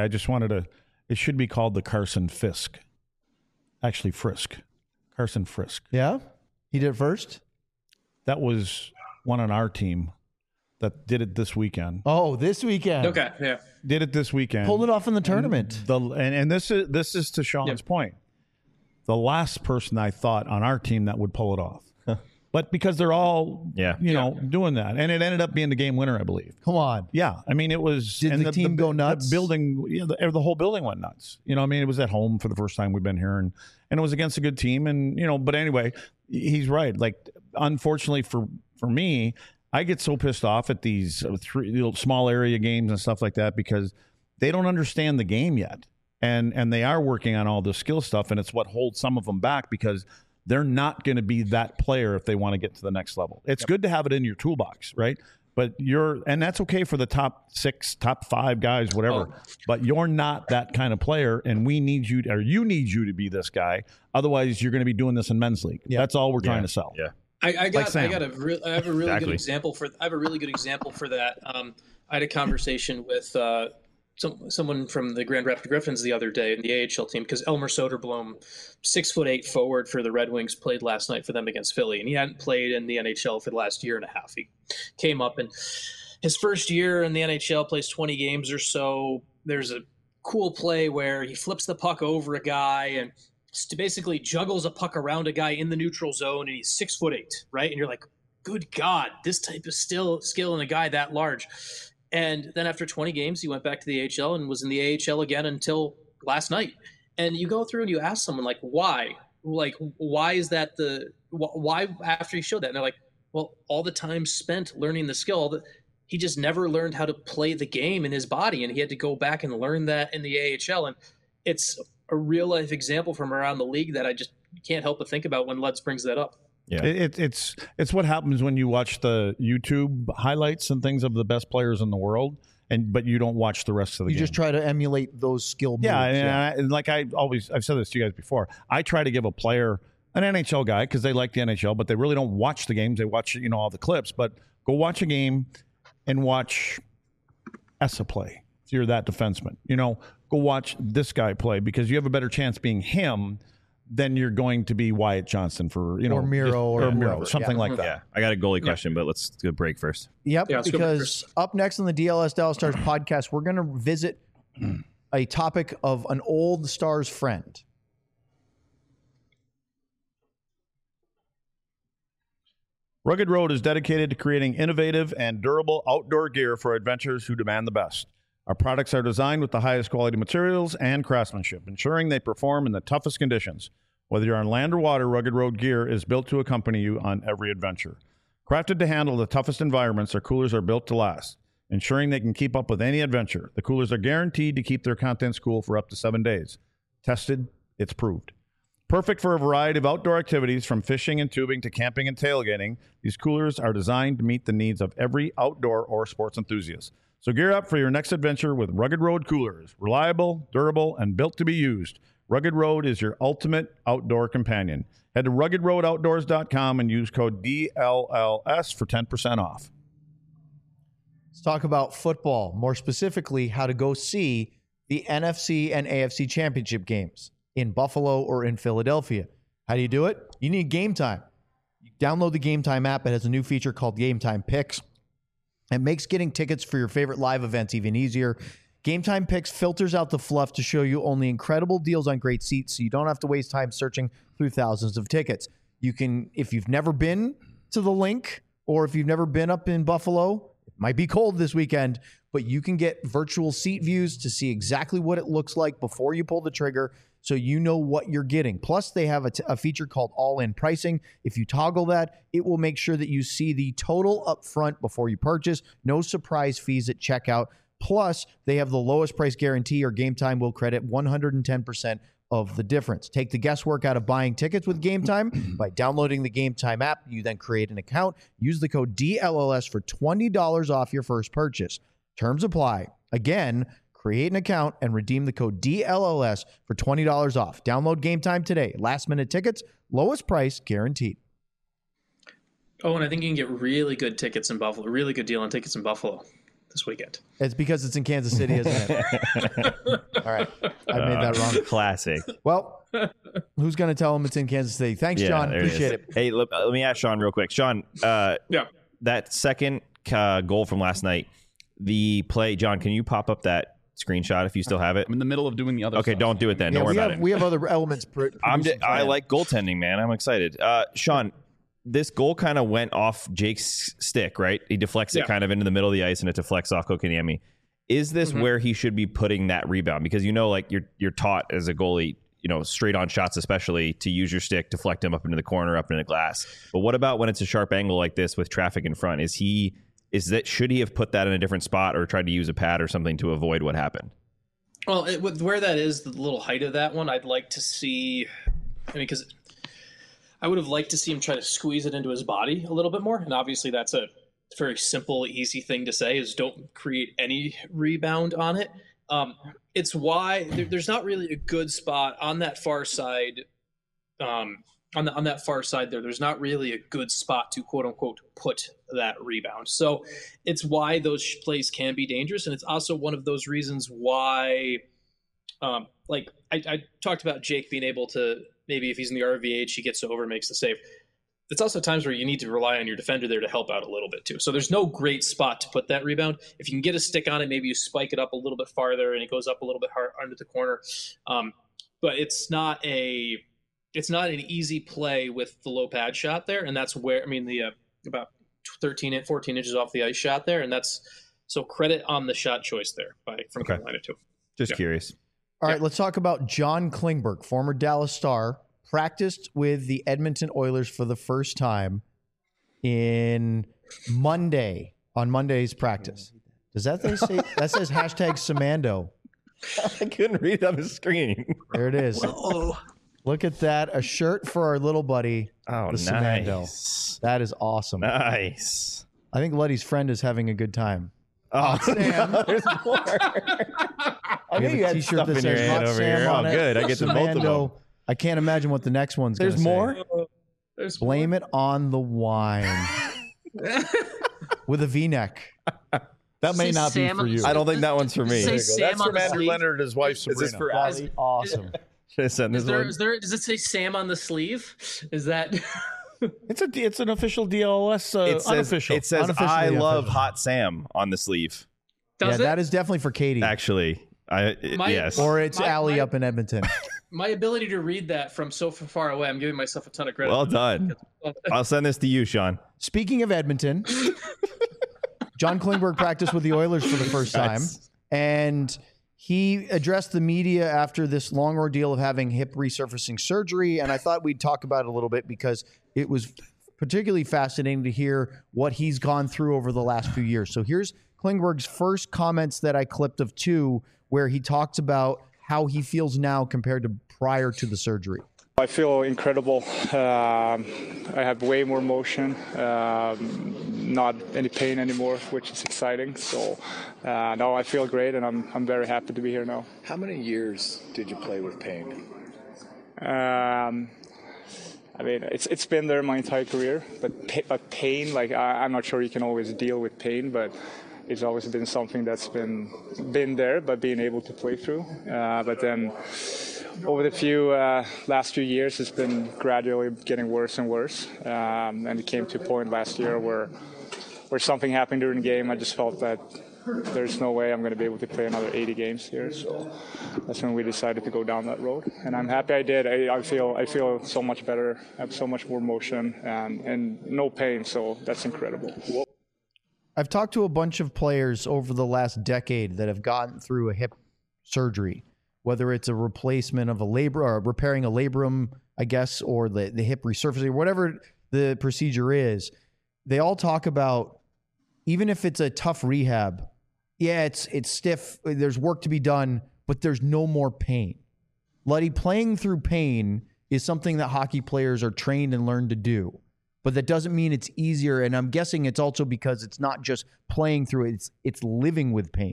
it should be called the Carson Fisk. Actually, Frisk. Carson Frisk. Yeah? He did it first? That was one on our team that did it this weekend. Oh, this weekend. Okay, yeah. Did it this weekend. Pulled it off in the tournament. And this is to Sean's point. The last person I thought on our team that would pull it off. But because they're all, doing that. And it ended up being the game winner, I believe. Come on. Yeah. I mean, it was. Did the team go nuts? The building, the whole building went nuts. I mean, it was at home for the first time we've been here. And it was against a good team. And, but anyway, he's right. Like, unfortunately for me, I get so pissed off at these small area games and stuff like that because they don't understand the game yet. And they are working on all this skill stuff. And it's what holds some of them back because they're not going to be that player if they want to get to the next level. It's good to have it in your toolbox, right? But and that's okay for the top 6, top 5 guys, whatever. Oh. But you're not that kind of player, and you need you to be this guy. Otherwise, you're going to be doing this in men's league. Yeah. That's all we're trying to sell. Yeah. I have a really good example for that. I had a conversation with someone from the Grand Rapids Griffins the other day in the AHL team, because Elmer Soderblom, 6'8" forward for the Red Wings, played last night for them against Philly, and he hadn't played in the NHL for the last year and a half. He came up, and his first year in the NHL, plays 20 games or so. There's a cool play where he flips the puck over a guy and basically juggles a puck around a guy in the neutral zone, and he's 6'8", right? And you're like, good God, this type of skill in a guy that large. And then after 20 games, he went back to the AHL and was in the AHL again until last night. And you go through and you ask someone, like, why? Like, why is that why after he showed that? And they're like, well, all the time spent learning the skill, he just never learned how to play the game in his body. And he had to go back and learn that in the AHL. And it's a real life example from around the league that I just can't help but think about when Lutz brings that up. Yeah, it's what happens when you watch the YouTube highlights and things of the best players in the world, but you don't watch the rest of the game. You just try to emulate those skill moves. And like I've said this to you guys before, I try to give a player, an NHL guy, because they like the NHL, but they really don't watch the games. They watch, all the clips. But go watch a game and watch Essa play. If you're that defenseman, go watch this guy play, because you have a better chance being him then you're going to be Wyatt Johnston for, or Miro or Miro, something like that. Yeah, I got a goalie question, but let's do a break first. Yep, because up next on the DLS Dallas Stars podcast, we're going to visit a topic of an old Stars friend. Rugged Road is dedicated to creating innovative and durable outdoor gear for adventurers who demand the best. Our products are designed with the highest quality materials and craftsmanship, ensuring they perform in the toughest conditions. Whether you're on land or water, Rugged Road gear is built to accompany you on every adventure. Crafted to handle the toughest environments, our coolers are built to last, ensuring they can keep up with any adventure. The coolers are guaranteed to keep their contents cool for up to 7 days. Tested, it's proved. Perfect for a variety of outdoor activities, from fishing and tubing to camping and tailgating. These coolers are designed to meet the needs of every outdoor or sports enthusiast. So gear up for your next adventure with Rugged Road coolers. Reliable, durable, and built to be used. Rugged Road is your ultimate outdoor companion. Head to ruggedroadoutdoors.com and use code DLLS for 10% off. Let's talk about football, more specifically how to go see the NFC and AFC championship games in Buffalo or in Philadelphia. How do you do it? You need Game Time. You download the Game Time app. It has a new feature called Game Time Picks. It makes getting tickets for your favorite live events even easier. Game Time Picks filters out the fluff to show you only incredible deals on great seats, so you don't have to waste time searching through thousands of tickets. You can, if you've never been to the Link, or if you've never been up in Buffalo, it might be cold this weekend, but you can get virtual seat views to see exactly what it looks like before you pull the trigger, so you know what you're getting. Plus, they have a feature called all-in pricing. If you toggle that, it will make sure that you see the total up front before you purchase. No surprise fees at checkout. Plus, they have the lowest price guarantee, or Game Time will credit 110% of the difference. Take the guesswork out of buying tickets with Game Time by downloading the Game Time app. You then create an account. Use the code DLLS for $20 off your first purchase. Terms apply. Again, create an account and redeem the code DLLS for $20 off. Download Game Time today. Last-minute tickets, lowest price guaranteed. Oh, and I think you can get really good tickets in Buffalo. Really good deal on tickets in Buffalo this weekend. It's because it's in Kansas City, isn't it? All right. I made that wrong. Classic. Well, who's going to tell him it's in Kansas City? Thanks, John. Appreciate it. Hey, let me ask Sean real quick. Sean, that second goal from last night, the play, John, can you pop up that screenshot if you still have it? I'm in the middle of doing the other Okay, stuff. don't do it then. Don't worry about it. We have other elements. I like goaltending, man. I'm excited. Sean, this goal kind of went off Jake's stick, right? He deflects it kind of into the middle of the ice, and it deflects off Kotkaniemi. Is this where he should be putting that rebound? Because like you're taught as a goalie, straight on shots especially, to use your stick, deflect him up into the corner, up into the glass. But what about when it's a sharp angle like this with traffic in front? Should he have put that in a different spot or tried to use a pad or something to avoid what happened? Well, with where that is, the little height of that one, I'd like to see. Because I would have liked to see him try to squeeze it into his body a little bit more. And obviously that's a very simple, easy thing to say, is don't create any rebound on it. It's why there's not really a good spot on that far side on that far side there. There's not really a good spot to quote unquote put that rebound. So it's why those plays can be dangerous, and it's also one of those reasons why, like I talked about Jake being able to, maybe if he's in the RVH, he gets over and makes the save. It's also times where you need to rely on your defender there to help out a little bit too. So there's no great spot to put that rebound. If you can get a stick on it, maybe you spike it up a little bit farther and it goes up a little bit hard under the corner. But it's not an easy play with the low pad shot there. And that's where, the about 14 inches off the ice shot there. And that's, so credit on the shot choice there from Carolina too. Just curious. All right, let's talk about John Klingberg, former Dallas Star, practiced with the Edmonton Oilers for the first time on Monday's practice. Does that say that says hashtag Samando? I couldn't read it on the screen. There it is. Look at that. A shirt for our little buddy. Oh, the nice. Samando. That is awesome. Nice. I think Luddy's friend is having a good time. Oh, Sam. There's more. I We have knew you a had t-shirt stuff that in your says hand Hot over Sam here. on Oh, it. good. I get to both of them. Samando. I can't imagine what the next one's going to There's say. more? Blame it on the wine. With a V-neck. That may not be Sam for you. I don't think that one's for me. Say That's Sam on from the Andrew sleeve. Leonard and his wife Sabrina. Is this for That's awesome. Should I send this one? Does it say Sam on the sleeve? Is that? It's an official DLS. Unofficial. It says Unofficially I love official. Hot Sam on the sleeve. Does That is definitely for Katie. Actually, yes. Or it's Allie my- up in Edmonton. My ability to read that from so far away, I'm giving myself a ton of credit. Well done. I'll send this to you, Sean. Speaking of Edmonton, John Klingberg practiced with the Oilers for the first time, and he addressed the media after this long ordeal of having hip resurfacing surgery. And I thought we'd talk about it a little bit because it was particularly fascinating to hear what he's gone through over the last few years. So here's Klingberg's first comments that I clipped of two, where he talks about how he feels now compared to prior to the surgery. I feel incredible. I have way more motion, not any pain anymore, which is exciting. So no, I feel great, and I'm very happy to be here now. How many years did you play with pain? It's been there my entire career, but pain, like I'm not sure you can always deal with pain, but it's always been something that's been there, but being able to play through. But then over the last few years, it's been gradually getting worse and worse. And it came to a point last year where something happened during the game. I just felt that there's no way I'm going to be able to play another 80 games here. So that's when we decided to go down that road. And I'm happy I did. I feel so much better. I have so much more motion and no pain. So that's incredible. I've talked to a bunch of players over the last decade that have gotten through a hip surgery, whether it's a replacement of a labrum or repairing a labrum, I guess, or the hip resurfacing, or whatever the procedure is. They all talk about, even if it's a tough rehab, yeah, it's stiff, there's work to be done, but there's no more pain. Luddy, playing through pain is something that hockey players are trained and learn to do. But that doesn't mean it's easier. And I'm guessing it's also because it's not just playing through it, it's living with pain.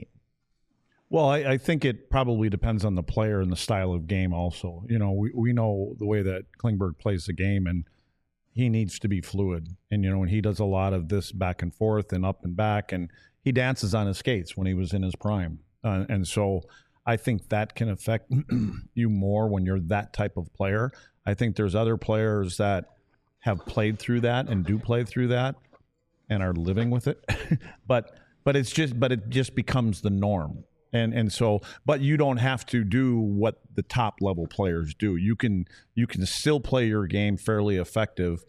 Well, I think it probably depends on the player and the style of game also. You know, we know the way that Klingberg plays the game, and he needs to be fluid. And, you know, and he does a lot of this back and forth and up and back, and he dances on his skates when he was in his prime. And so I think that can affect you more when you're that type of player. I think there's other players that have played through that and do play through that and are living with it. but it just becomes the norm. And so, but you don't have to do what the top level players do. You can still play your game fairly effective,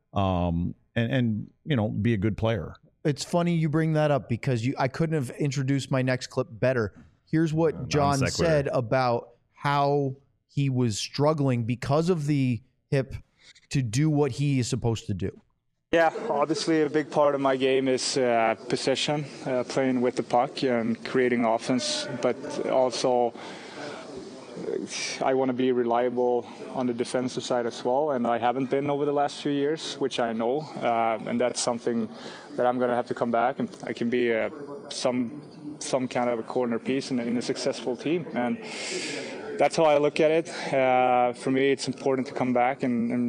and you know, be a good player. It's funny you bring that up because I couldn't have introduced my next clip better. Here's what John said about how he was struggling because of the hip to do what he is supposed to do. Yeah, obviously a big part of my game is possession, playing with the puck and creating offense, but also I want to be reliable on the defensive side as well, and I haven't been over the last few years, which I know, and that's something that I'm going to have to come back, and I can be some kind of a corner piece in a successful team, and that's how I look at it. For me, it's important to come back and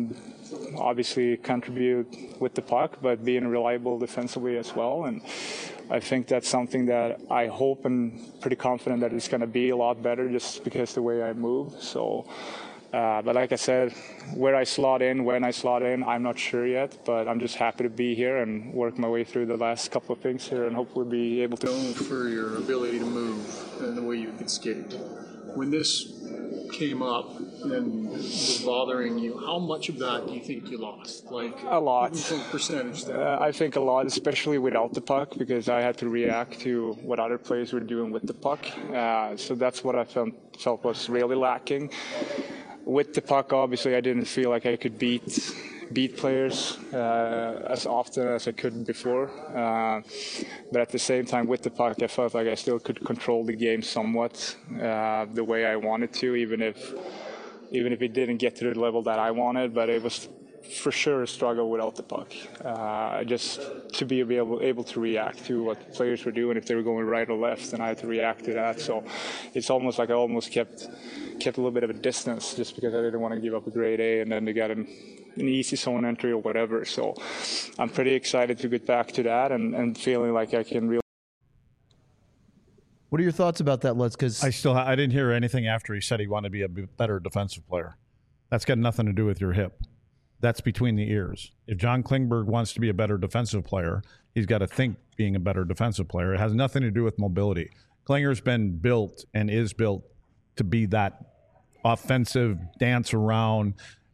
obviously contribute with the puck, but being reliable defensively as well. And I think that's something that I hope and pretty confident that it's going to be a lot better just because the way I move. So, but like I said, where I slot in, when I slot in, I'm not sure yet, but I'm just happy to be here and work my way through the last couple of things here and hopefully be able to. Known for your ability to move and the way you can skate. When this came up and was bothering you, how much of that do you think you lost? Like a lot. Percentage. I think a lot, especially without the puck, because I had to react to what other players were doing with the puck. So that's what I felt was really lacking. With the puck, obviously, I didn't feel like I could beat players as often as I could before. But at the same time, with the puck, I felt like I still could control the game somewhat the way I wanted to, even if it didn't get to the level that I wanted. But it was for sure a struggle without the puck. Just to be able to react to what players were doing, if they were going right or left, and I had to react to that. So it's almost like I almost kept a little bit of a distance just because I didn't want to give up a grade A and then to get an easy zone entry or whatever. So I'm pretty excited to get back to that and feeling like I can really. What are your thoughts about that, Lutz? Because I didn't hear anything after he said he wanted to be a better defensive player. That's got nothing to do with your hip. That's between the ears. If John Klingberg wants to be a better defensive player, he's got to think being a better defensive player. It has nothing to do with mobility. Klinger's been built and is built to be that offensive, dance around,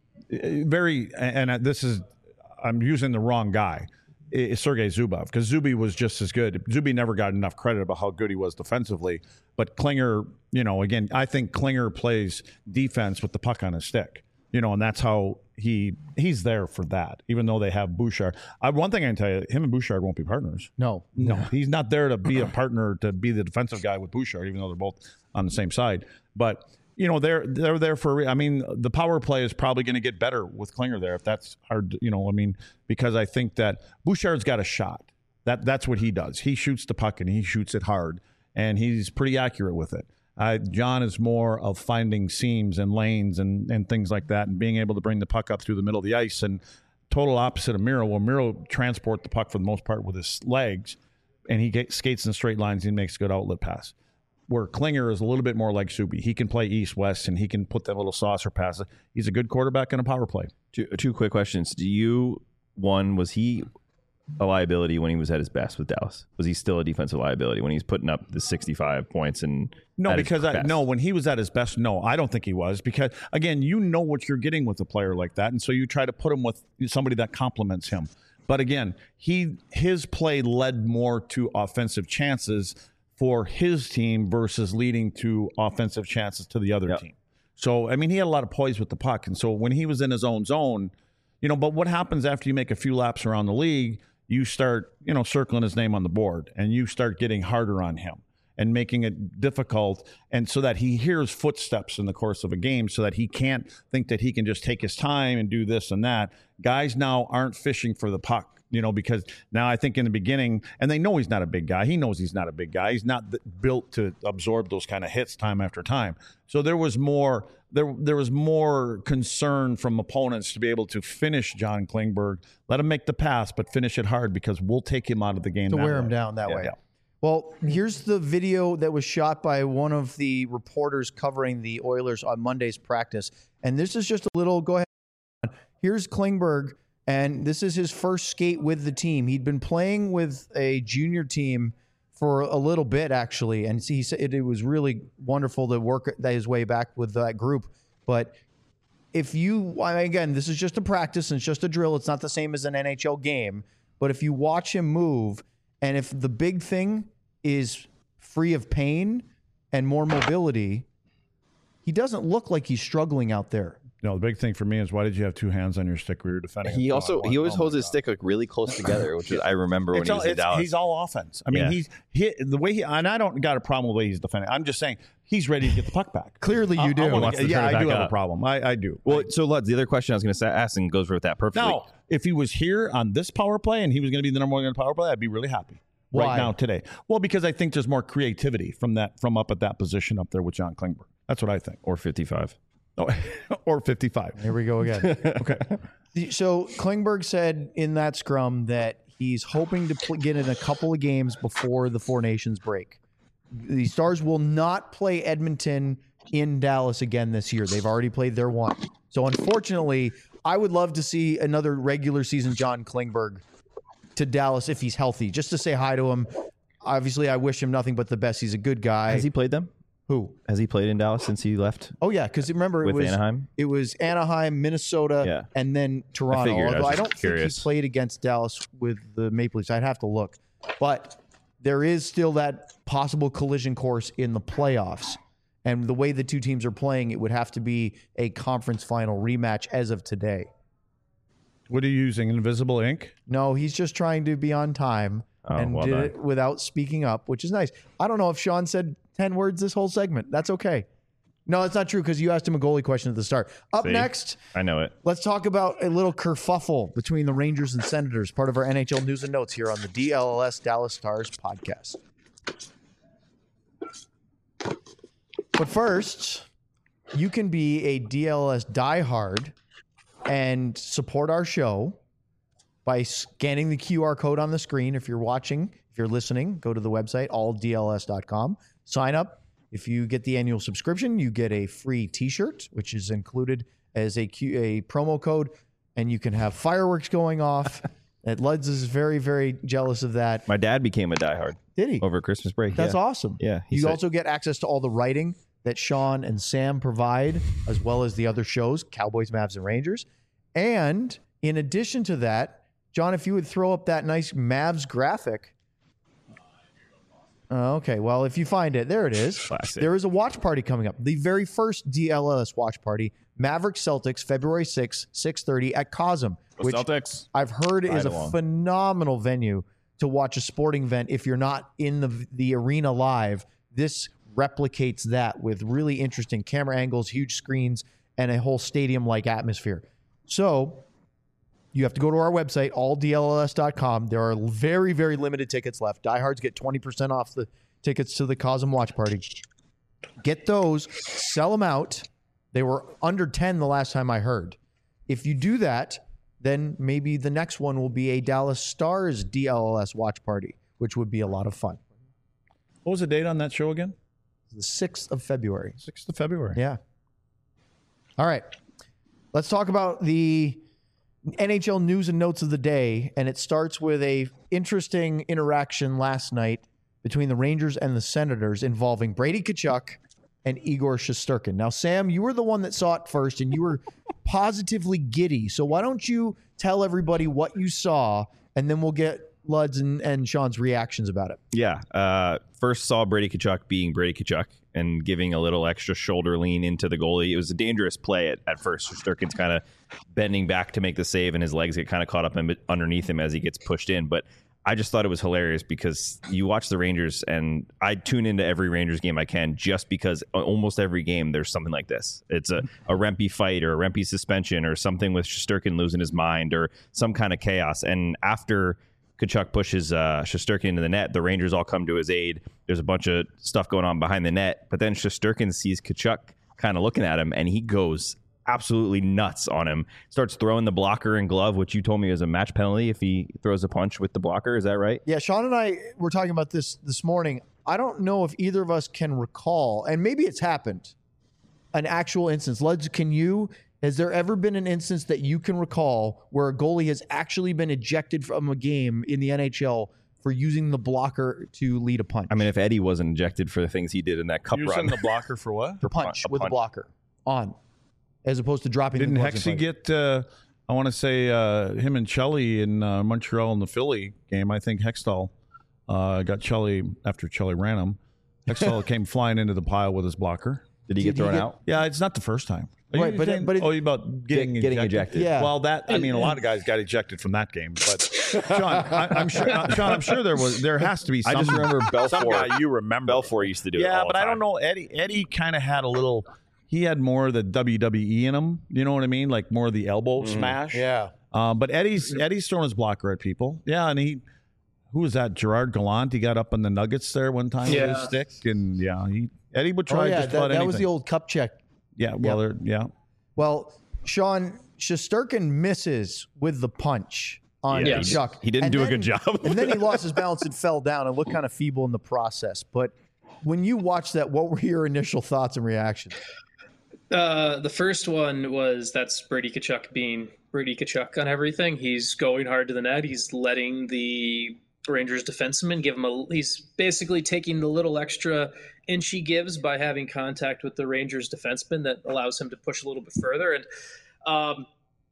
I'm using the wrong guy, is Sergei Zubov, because Zuby was just as good. Zuby never got enough credit about how good he was defensively, but Klinger, again, I think Klinger plays defense with the puck on his stick, and that's how he's there for that, even though they have Bouchard. One thing I can tell you, him and Bouchard won't be partners. No, he's not there to be a partner, to be the defensive guy with Bouchard, even though they're both on the same side. But they're there for. I mean, the power play is probably going to get better with Klinger there, if that's hard. Because I think that Bouchard's got a shot. That's what he does. He shoots the puck and he shoots it hard, and he's pretty accurate with it. John is more of finding seams and lanes and things like that, and being able to bring the puck up through the middle of the ice. And total opposite of Miro, where Miro transport the puck for the most part with his legs, and he skates in straight lines and makes a good outlet pass. Where Klinger is a little bit more like Subi. He can play east-west, and he can put that little saucer pass. He's a good quarterback in a power play. Two quick questions. Was he a liability when he was at his best with Dallas? Was he still a defensive liability when he's putting up the 65 points? When he was at his best, no, I don't think he was. Because, again, what you're getting with a player like that, and so you try to put him with somebody that complements him. But, again, his play led more to offensive chances for his team versus leading to offensive chances to the other team. So, I mean, he had a lot of poise with the puck. And so when he was in his own zone, but what happens after you make a few laps around the league, you start, circling his name on the board, and you start getting harder on him and making it difficult. And so that he hears footsteps in the course of a game, so that he can't think that he can just take his time and do this and that. Guys now aren't fishing for the puck. Because now I think in the beginning, and they know he's not a big guy. He knows he's not a big guy. He's not built to absorb those kind of hits time after time. So there was more concern from opponents to be able to finish John Klingberg, let him make the pass, but finish it hard, because we'll take him out of the game to wear him down that way. Yeah. Well, here's the video that was shot by one of the reporters covering the Oilers on Monday's practice. And this is just a little, go ahead. Here's Klingberg. And this is his first skate with the team. He'd been playing with a junior team for a little bit, actually. And he said it was really wonderful to work his way back with that group. But again, this is just a practice and it's just a drill. It's not the same as an NHL game. But if you watch him move, and if the big thing is free of pain and more mobility, he doesn't look like he's struggling out there. The big thing for me is, why did you have two hands on your stick where you're defending? He always holds his stick really close together, which is, I remember when he was in Dallas. He's all offense. I mean, the way and I don't got a problem with the way he's defending. I'm just saying he's ready to get the puck back. Clearly, you do. I do have a problem. I do. Well, so Lutz, the other question I was going to ask, and goes with that perfectly. Now, if he was here on this power play and he was going to be the number one in power play, I'd be really happy. Why? Right now today. Well, because I think there's more creativity from up at that position up there with John Klingberg. That's what I think. Or 55. Oh, or 55. Here we go again. Okay. So Klingberg said in that scrum that he's hoping to get in a couple of games before the Four Nations break. The Stars will not play Edmonton in Dallas again this year. They've already played their one. So unfortunately, I would love to see another regular season John Klingberg to Dallas if he's healthy, just to say hi to him. Obviously, I wish him nothing but the best. He's a good guy. Has he played them? Who? Has he played in Dallas since he left? Oh, yeah, because remember, With Anaheim? It was Anaheim, Minnesota, and then Toronto. figured. Although I don't Curious. think he played against Dallas with the Maple Leafs. I'd have to look. But there is still that possible collision course in the playoffs. And the way the two teams are playing, it would have to be a conference final rematch as of today. What are you using? Invisible ink? No, he's just trying to be on time and well did done. it without speaking up, which is nice. I don't know if Sean said 10 words this whole segment. That's okay. No, that's not true because you asked him a goalie question at the start. Up See? next, I know it. let's talk about a little kerfuffle between the Rangers and Senators, part of our NHL news and notes here on the DLS Dallas Stars podcast. But first, you can be a DLS diehard and support our show by scanning the QR code on the screen. If you're watching, if you're listening, go to the website, alldls.com. Sign up. If you get the annual subscription, you get a free T-shirt, which is included as a promo code, and you can have fireworks going off. And Luds is very, very jealous of that. My dad became a diehard. Did he? Over Christmas break. That's yeah. awesome. Yeah. You also get access to all the writing that Sean and Sam provide, as well as the other shows, Cowboys, Mavs, and Rangers. And in addition to that, John, if you would throw up that nice Mavs graphic. Okay, well, if you find it, there it is. Classic. There is a watch party coming up. The very first DLS watch party, Maverick Celtics, February 6th, 6:30 at Cosm, which Celtics. I've heard is a along. phenomenal venue to watch a sporting event if you're not in the arena live. This replicates that with really interesting camera angles, huge screens, and a whole stadium-like atmosphere. So you have to go to our website, alldls.com. There are very, very limited tickets left. Diehards get 20% off the tickets to the Cosm Watch Party. Get those, sell them out. They were under 10 the last time I heard. If you do that, then maybe the next one will be a Dallas Stars DLS Watch Party, which would be a lot of fun. What was the date on that show again? The 6th of February. 6th of February. Yeah. All right. Let's talk about the NHL news and notes of the day. And it starts with a interesting interaction last night between the Rangers and the Senators involving Brady Tkachuk and Igor Shesterkin. Now, Sam, you were the one that saw it first, and you were positively giddy. So why don't you tell everybody what you saw, and then we'll get Lud's and Sean's reactions about it. Yeah. First saw Brady Tkachuk being Brady Tkachuk and giving a little extra shoulder lean into the goalie. It was a dangerous play at first. Shesterkin's kind of bending back to make the save, and his legs get kind of caught up underneath him as he gets pushed in. But I just thought it was hilarious because you watch the Rangers, and I tune into every Rangers game I can just because almost every game there's something like this. It's a Rempe fight or a Rempe suspension or something with Shesterkin losing his mind or some kind of chaos. And after Tkachuk pushes Shesterkin into the net, the Rangers all come to his aid. There's a bunch of stuff going on behind the net, but then Shesterkin sees Tkachuk kind of looking at him, and he goes absolutely nuts on him. Starts throwing the blocker and glove, which you told me is a match penalty if he throws a punch with the blocker. Is that right? Yeah, Sean and I were talking about this morning. I don't know if either of us can recall, and maybe it's happened, an actual instance. Luds, has there ever been an instance that you can recall where a goalie has actually been ejected from a game in the NHL for using the blocker to lead a punch? I mean, if Eddie wasn't ejected for the things he did in that cup Using run. the blocker for what? For punch with a blocker on, as opposed to dropping Didn't the gloves Hexy and fighting. get, I want to say, him and Chelly in Montreal in the Philly game? I think Hextall got Chelly after Chelly ran him. Hextall came flying into the pile with his blocker. Did he get thrown out? Yeah, it's not the first time. Right, but about getting ejected. Yeah. Well, a lot of guys got ejected from that game. But Sean, I'm sure there has to be. Some, I just remember Belfour. Some guy you remember. Belfour used to do it. Yeah, all the but I time. don't know. Eddie kind of had a little. He had more of the WWE in him. You know what I mean? Like more of the elbow smash. Yeah. But Eddie's throwing his blocker at people. Yeah, and who was that? Gerard Gallant. He got up on the Nuggets there one time with his stick, and Eddie would try just about anything. That was the old cup check. Yeah. Well, yeah. Well, Sean Shesterkin misses with the punch on Tkachuk. He didn't do a good job. And then he lost his balance and fell down and looked kind of feeble in the process. But when you watched that, what were your initial thoughts and reactions? The first one was that's Brady Tkachuk being Brady Tkachuk on everything. He's going hard to the net. He's letting the Rangers defenseman give him he's basically taking the little extra inch he gives by having contact with the Rangers defenseman that allows him to push a little bit further. And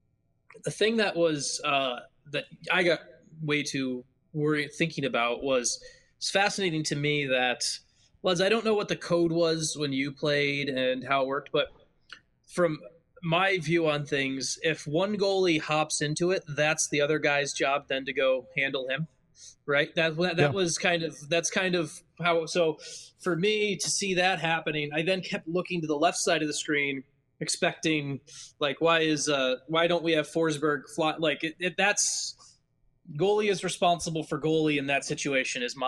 the thing that was that I got way too worried thinking about was it's fascinating to me that, Les, I don't know what the code was when you played and how it worked, but from my view on things, if one goalie hops into it, that's the other guy's job then to go handle him, right? That was that's kind of how. So for me to see that happening, I then kept looking to the left side of the screen, expecting like why don't we have Forsberg fly? Like that's goalie is responsible for goalie in that situation is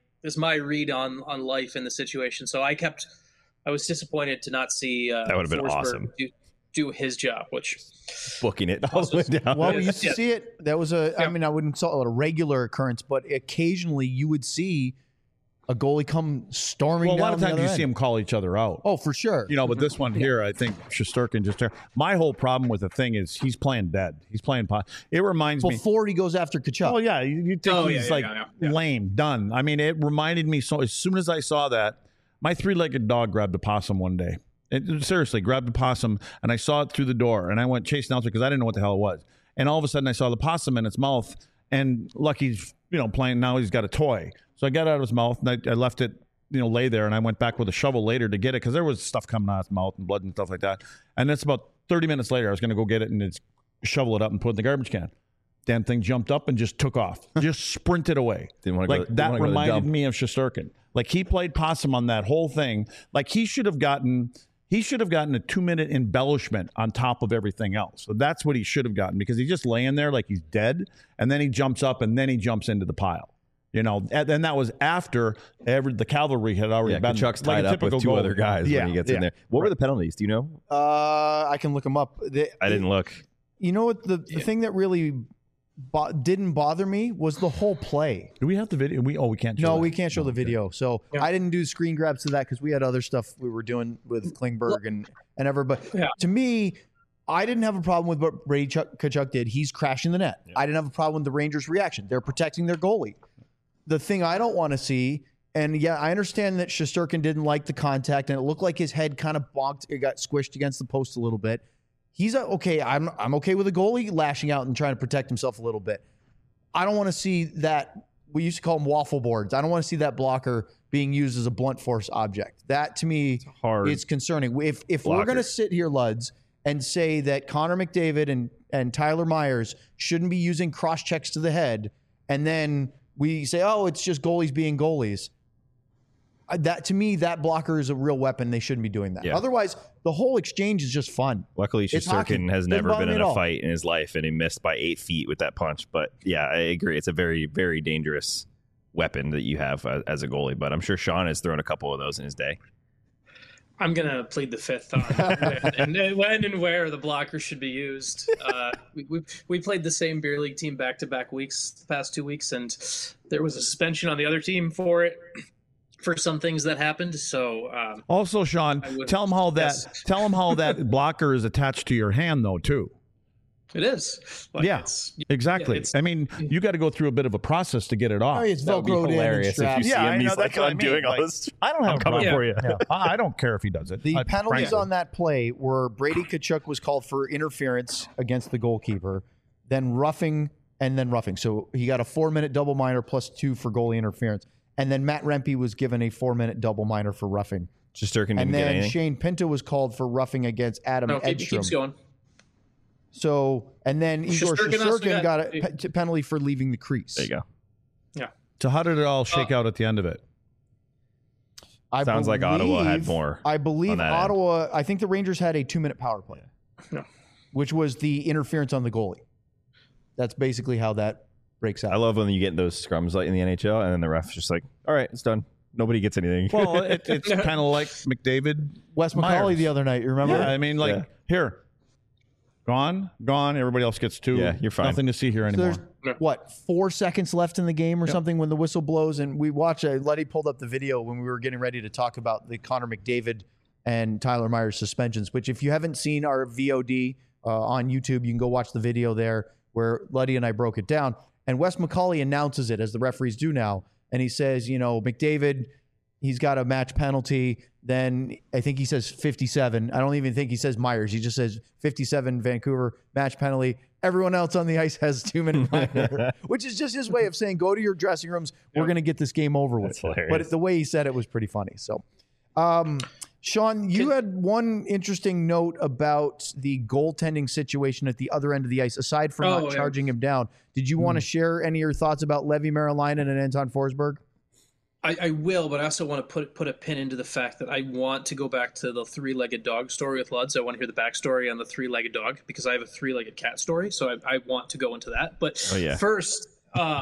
my read on life in the situation. So I was disappointed to not see that would have been Forsberg awesome. Do his job, which booking it all the way down. Well, we used to see it. That was I mean, I wouldn't call it a regular occurrence, but occasionally you would see a goalie come storming down. Well, a lot of the times other you end. see them call each other out. Oh, for sure. But this one here, I think Shesterkin just. My whole problem with the thing is he's playing dead. He's playing pot. It reminds me before he goes after Tkachuk. Oh yeah, you think he's lame, done. I mean, it reminded me so. As soon as I saw that, my 3-legged dog grabbed a possum one day. It seriously grabbed a possum, and I saw it through the door, and I went chasing out because I didn't know what the hell it was. And all of a sudden, I saw the possum in its mouth, and Lucky's playing. Now he's got a toy, so I got it out of his mouth, and I left it. Lay there, and I went back with a shovel later to get it because there was stuff coming out of his mouth and blood and stuff like that. And that's about 30 minutes later. I was going to go get it and shovel it up and put it in the garbage can. Damn thing jumped up and just took off, just sprinted away. That reminded me of Shesterkin. Like he played possum on that whole thing. Like he should have gotten a 2-minute embellishment on top of everything else. So that's what he should have gotten because he's just laying there like he's dead, and then he jumps up and then he jumps into the pile. And that was after the cavalry had already been. Tkachuk's tied up with two other guys when he gets in there. What were the penalties? Do you know? I can look them up. I didn't look. You know what? The thing that really didn't bother me was the whole play. Do we have the video? We can't show No, that. we can't show the video. So I didn't do screen grabs to that because we had other stuff we were doing with Klingberg and ever. But to me, I didn't have a problem with what Brady Tkachuk did. He's crashing the net. I didn't have a problem with the Rangers' reaction. They're protecting their goalie. The thing I don't want to see, and I understand that Shesterkin didn't like the contact, and it looked like his head kind of bonked. It got squished against the post a little bit. He's okay. I'm okay with a goalie lashing out and trying to protect himself a little bit. I don't want to see that. We used to call them waffle boards. I don't want to see that blocker being used as a blunt force object. That to me is concerning. If we're going to sit here, Luds, and say that Connor McDavid and Tyler Myers shouldn't be using cross checks to the head, and then we say, oh, it's just goalies being goalies. That to me, that blocker is a real weapon. They shouldn't be doing that. Yeah. Otherwise, the whole exchange is just fun. Luckily, Shesterkin has never been in a fight in his life, and he missed by 8 feet with that punch. But yeah, I agree. It's a very, very dangerous weapon that you have as a goalie. But I'm sure Sean has thrown a couple of those in his day. I'm going to plead the fifth on when and where the blocker should be used. We played the same beer league team back-to-back weeks the past 2 weeks, and there was a suspension on the other team for it, for some things that happened. So also, Sean, tell him how that blocker is attached to your hand, though, too. It is. Exactly. I mean, you got to go through a bit of a process to get it off. Oh, it's Velcroed in and strapped. If you see him, he's like, I'm doing all this. I don't have I'm coming for you. Yeah. I don't care if he does it. The penalties on that play were Brady Tkachuk was called for interference against the goalkeeper, then roughing, and then roughing. So he got a 4-minute double minor plus 2 for goalie interference. And then Matt Rempe was given a 4-minute double minor for roughing. Shesterkin didn't and get then anything? Shane Pinto was called for roughing against Adam Edstrom. He keeps going. So, and then Igor Shesterkin got a penalty for leaving the crease. There you go. Yeah. So how did it all shake out at the end of it? Sounds like Ottawa had more. I believe Ottawa, end. I think the Rangers had a 2-minute power play, which was the interference on the goalie. That's basically how that breaks out. I love when you get those scrums like in the NHL, and then the ref's just like, all right, it's done. Nobody gets anything. Well, it's kind of like McDavid. Wes McCauley the other night, you remember? Yeah, I mean, here. Gone. Everybody else gets 2. Yeah, you're fine. Nothing to see here anymore. So there's, 4 seconds left in the game or something when the whistle blows? And we watch, Letty pulled up the video when we were getting ready to talk about the Connor McDavid and Tyler Myers suspensions, which if you haven't seen our VOD on YouTube, you can go watch the video there where Letty and I broke it down. And Wes McCauley announces it, as the referees do now. And he says, McDavid, he's got a match penalty. Then I think he says 57. I don't even think he says Myers. He just says 57 Vancouver match penalty. Everyone else on the ice has 2 minute minor, which is just his way of saying, go to your dressing rooms. We're going to get this game over with. But the way he said it was pretty funny. So, Sean, you had one interesting note about the goaltending situation at the other end of the ice, aside from not charging him down. Did you want to share any of your thoughts about Levi Marilainen and Anton Forsberg? I will, but I also want to put a pin into the fact that I want to go back to the 3-legged dog story with Luds. I want to hear the backstory on the 3-legged dog because I have a 3-legged cat story, so I want to go into that. But first,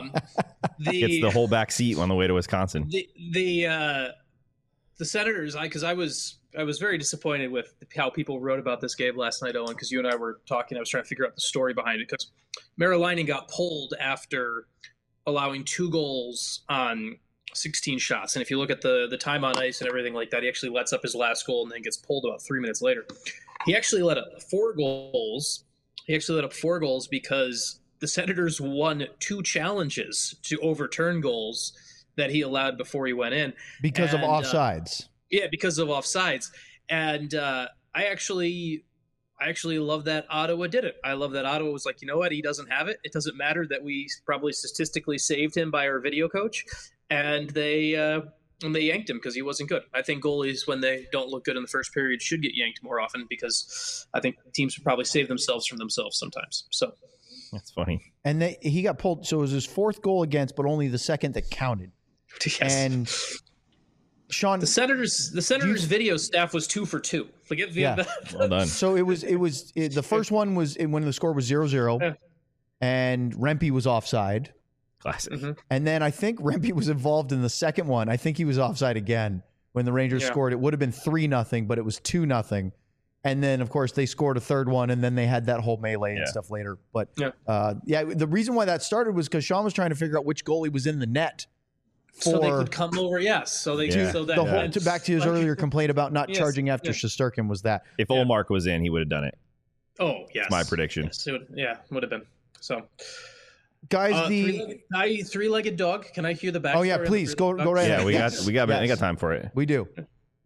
gets the whole back seat on the way to Wisconsin. The Senators, because I was very disappointed with how people wrote about this game last night, Owen, because you and I were talking. I was trying to figure out the story behind it because Marilainen got pulled after allowing 2 goals on 16 shots. And if you look at the time on ice and everything like that, he actually lets up his last goal and then gets pulled about 3 minutes later. He actually let up 4 goals. He actually let up 4 goals because the Senators won 2 challenges to overturn goals that he allowed before he went in. Because of offsides. Because of offsides. And I actually love that Ottawa did it. I love that Ottawa was like, you know what? He doesn't have it. It doesn't matter that we probably statistically saved him by our video coach. And they yanked him because he wasn't good. I think goalies, when they don't look good in the first period, should get yanked more often because I think teams would probably save themselves from themselves sometimes. So that's funny. And he got pulled. So it was his 4th goal against, but only the 2nd that counted. Yes. And Sean, the Senators video staff was 2 for 2. Forget well done. So it was the first one was when the score was 0-0, and Rempe was offside. Classic. Mm-hmm. And then I think Rempe was involved in the second one. I think he was offside again when the Rangers scored. It would have been 3-0, but it was 2-0. And then, of course, they scored a third one, and then they had that whole melee and stuff later. But the reason why that started was because Sean was trying to figure out which goalie was in the net. So they could come over, so they so that the whole back to his earlier complaint about not charging after Shesterkin was that. If Ullmark was in, he would have done it. Oh, yes. That's my prediction. Yes, would have been. So, guys, three-legged dog. Can I hear the backstory? Oh yeah, please go right ahead. Yeah, we got time for it. We do.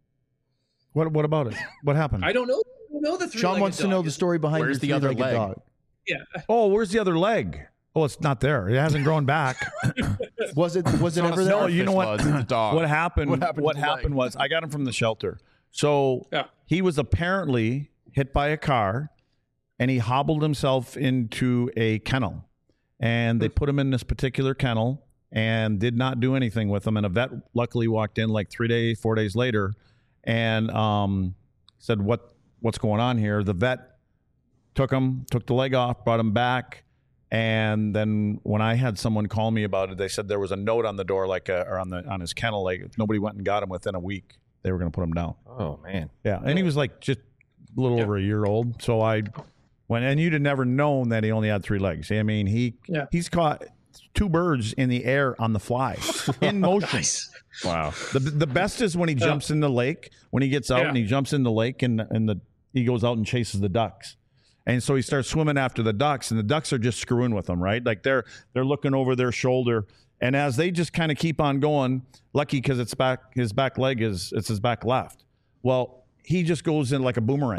What about it? What happened? I don't know. The three-legged Sean wants to know the story behind where's your the other three-legged leg? dog. Yeah. Oh, where's the other leg? Oh, it's not there. It hasn't grown back. Was it ever there? No, you know what? The dog. What happened? What happened Was I got him from the shelter. So he was apparently hit by a car, and he hobbled himself into a kennel. And they put him in this particular kennel and did not do anything with him. And a vet luckily walked in like 4 days later, and said, "What's going on here?" The vet took the leg off, brought him back. And then when I had someone call me about it, they said there was a note on the door, or on his kennel, like if nobody went and got him within a week, they were going to put him down. Oh man, yeah. And he was like just a little over a year old. So I went, and you'd have never known that he only had 3 legs. I mean, he's caught 2 birds in the air on the fly in motion. Nice. Wow. The best is when he jumps in the lake. When he gets out and he jumps in the lake, and he goes out and chases the ducks. And so he starts swimming after the ducks, and the ducks are just screwing with him, right? Like they're looking over their shoulder, and as they just kind of keep on going, lucky because his back leg it's his back left. Well, he just goes in like a boomerang.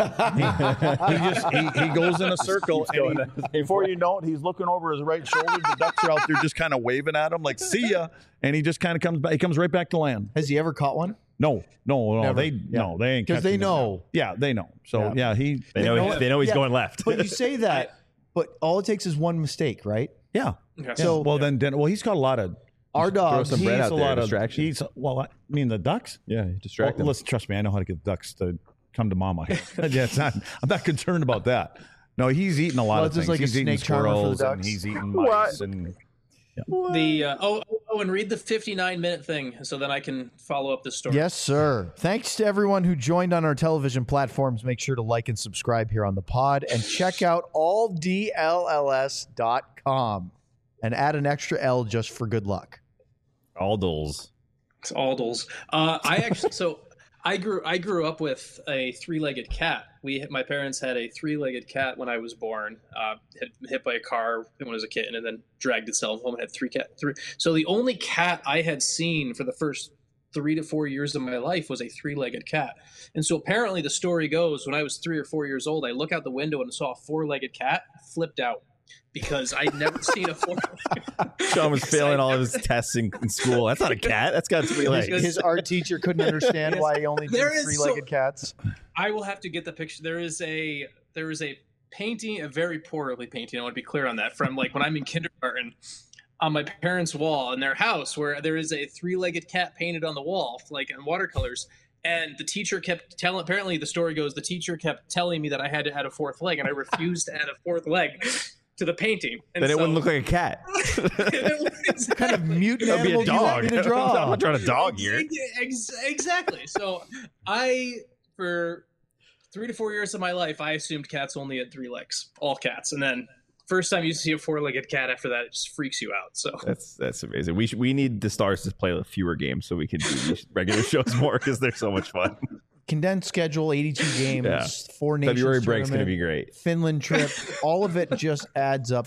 he goes in a circle, and before you know it, he's looking over his right shoulder. The ducks are out there just kind of waving at him like "see ya," and he just kind of comes back. He comes right back to land. Has he ever caught one? No, Never. they ain't because they catching him. know. Yeah, they know. So they know he's going left. But you say that, but all it takes is one mistake, right? Yeah. So he's got a lot of our dog. Some bread he's out a there, lot of distraction. I mean the ducks. Yeah, distract them. Listen, trust me, I know how to get the ducks to come to mama. I'm not concerned about that. No, he's eating a lot of it's things. like he's a eating snake charmer for the squirrels, and ducks. he's eating mice, and And read the 59-minute thing so then I can follow up the story. Yes, sir. Thanks to everyone who joined on our television platforms. Make sure to like and subscribe here on the pod and check out alldls.com and add an extra L just for good luck. Aldles. It's Aldles. I grew up with a 3-legged cat. My parents had a 3-legged cat when I was born. Had been hit by a car when I was a kitten, and then dragged itself home and had three. So the only cat I had seen for the first 3 to 4 years of my life was a 3-legged cat. And so apparently the story goes, when I was 3 or 4 years old, I look out the window and saw a 4-legged cat, flipped out. Because I'd never seen a 4-legged. Sean was failing all of his tests in school. That's not a cat. That's got 3 legs. His art teacher couldn't understand why he only did 3-legged cats. I will have to get the picture. There is a painting, a very poorly painting. I want to be clear on that. From like when I'm in kindergarten, on my parents' wall in their house, where there is a 3-legged cat painted on the wall, like in watercolors. And the teacher kept telling. Apparently, the story goes, the teacher kept telling me that I had to add a 4th leg, and I refused to add a 4th leg to the painting. And then it wouldn't look like a cat. What kind of mutant That'd be animal a do you want dog. me to draw? I'm not trying to dog here. Exactly. So for 3 to 4 years of my life, I assumed cats only had 3 legs, all cats. And then first time you see a 4-legged cat after that, it just freaks you out. So that's amazing. We need the Stars to play fewer games so we can do these regular shows more because they're so much fun. Condensed schedule, 82 games, Yeah. 4 nations February break's going to tournament, be great. Finland trip, all of it just adds up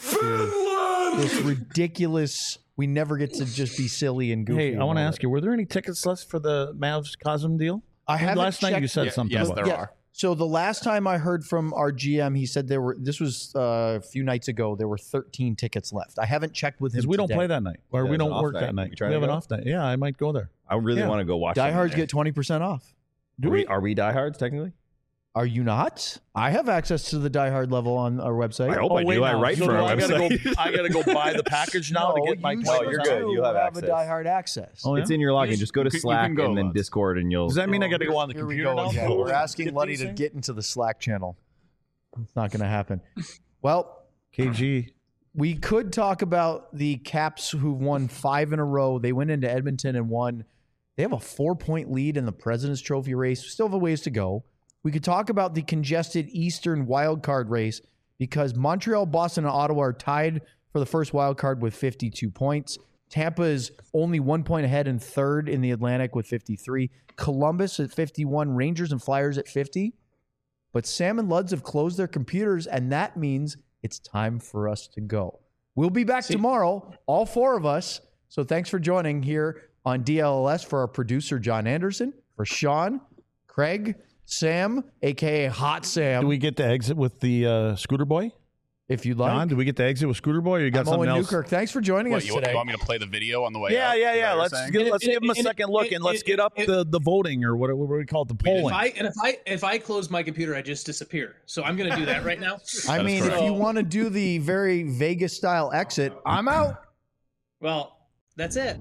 to this ridiculous. We never get to just be silly and goofy. Hey, I want to ask you, were there any tickets left for the Mavs Cosm deal? I haven't Last night you checked- said something yes, about there it. are. So the last time I heard from our GM, he said this was a few nights ago, there were 13 tickets left. I haven't checked with him Because we don't today. play that night. Or Yeah, we it's an don't off work night. that night. You trying We to have an go? off night. Yeah, I might go there. I really Yeah. want to go watch. Diehards them there. get 20% off. Are we diehards technically? Are you not? I have access to the diehard level on our website. I hope I do. I write for our I gotta website. I gotta go buy the package now to get my. you No, you're good. You have a access. diehard access. Oh, yeah? It's in your login. Just go to You can Slack go, and then lads. Discord, and you'll. Does that mean I got to go on the Here we computer go now? again. We're asking Get Luddy these to things? get into the Slack channel. It's not going to happen. Well, KG. we could talk about the Caps who've won 5 in a row. They went into Edmonton and won. They have a 4-point lead in the President's Trophy race. We still have a ways to go. We could talk about the congested Eastern wildcard race because Montreal, Boston, and Ottawa are tied for the first wildcard with 52 points. Tampa is only 1 point ahead in third in the Atlantic with 53. Columbus at 51. Rangers and Flyers at 50. But Sam and Luds have closed their computers, and that means it's time for us to go. We'll be back tomorrow, all 4 of us. So thanks for joining here on DLLS for our producer, John Anderson, for Sean, Craig, Sam, a.k.a. Hot Sam, Do we get to exit with the Scooter Boy? if you'd like. John, do we get to exit with Scooter Boy or you got I'm something Owen else? Newkirk. Thanks for joining What, us you today. want me to play the video on the way Yeah, out? yeah, Is that yeah. what Let's you're saying? give him a second look and let's get up the voting or what we call it, the polling. If I close my computer, I just disappear. So I'm going to do that right now. I mean, if you want to do the very Vegas style exit, I'm out. Well, that's it.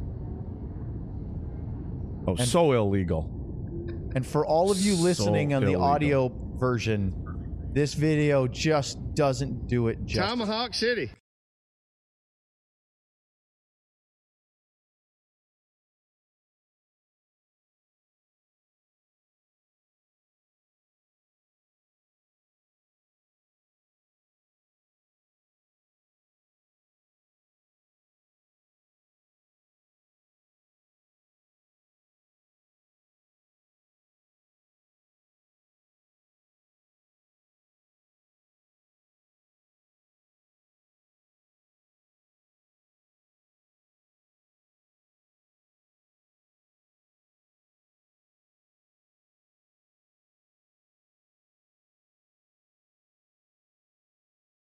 Oh, so illegal. And for all of you listening on the illegal. audio version, this video just doesn't do it justice. Tomahawk City.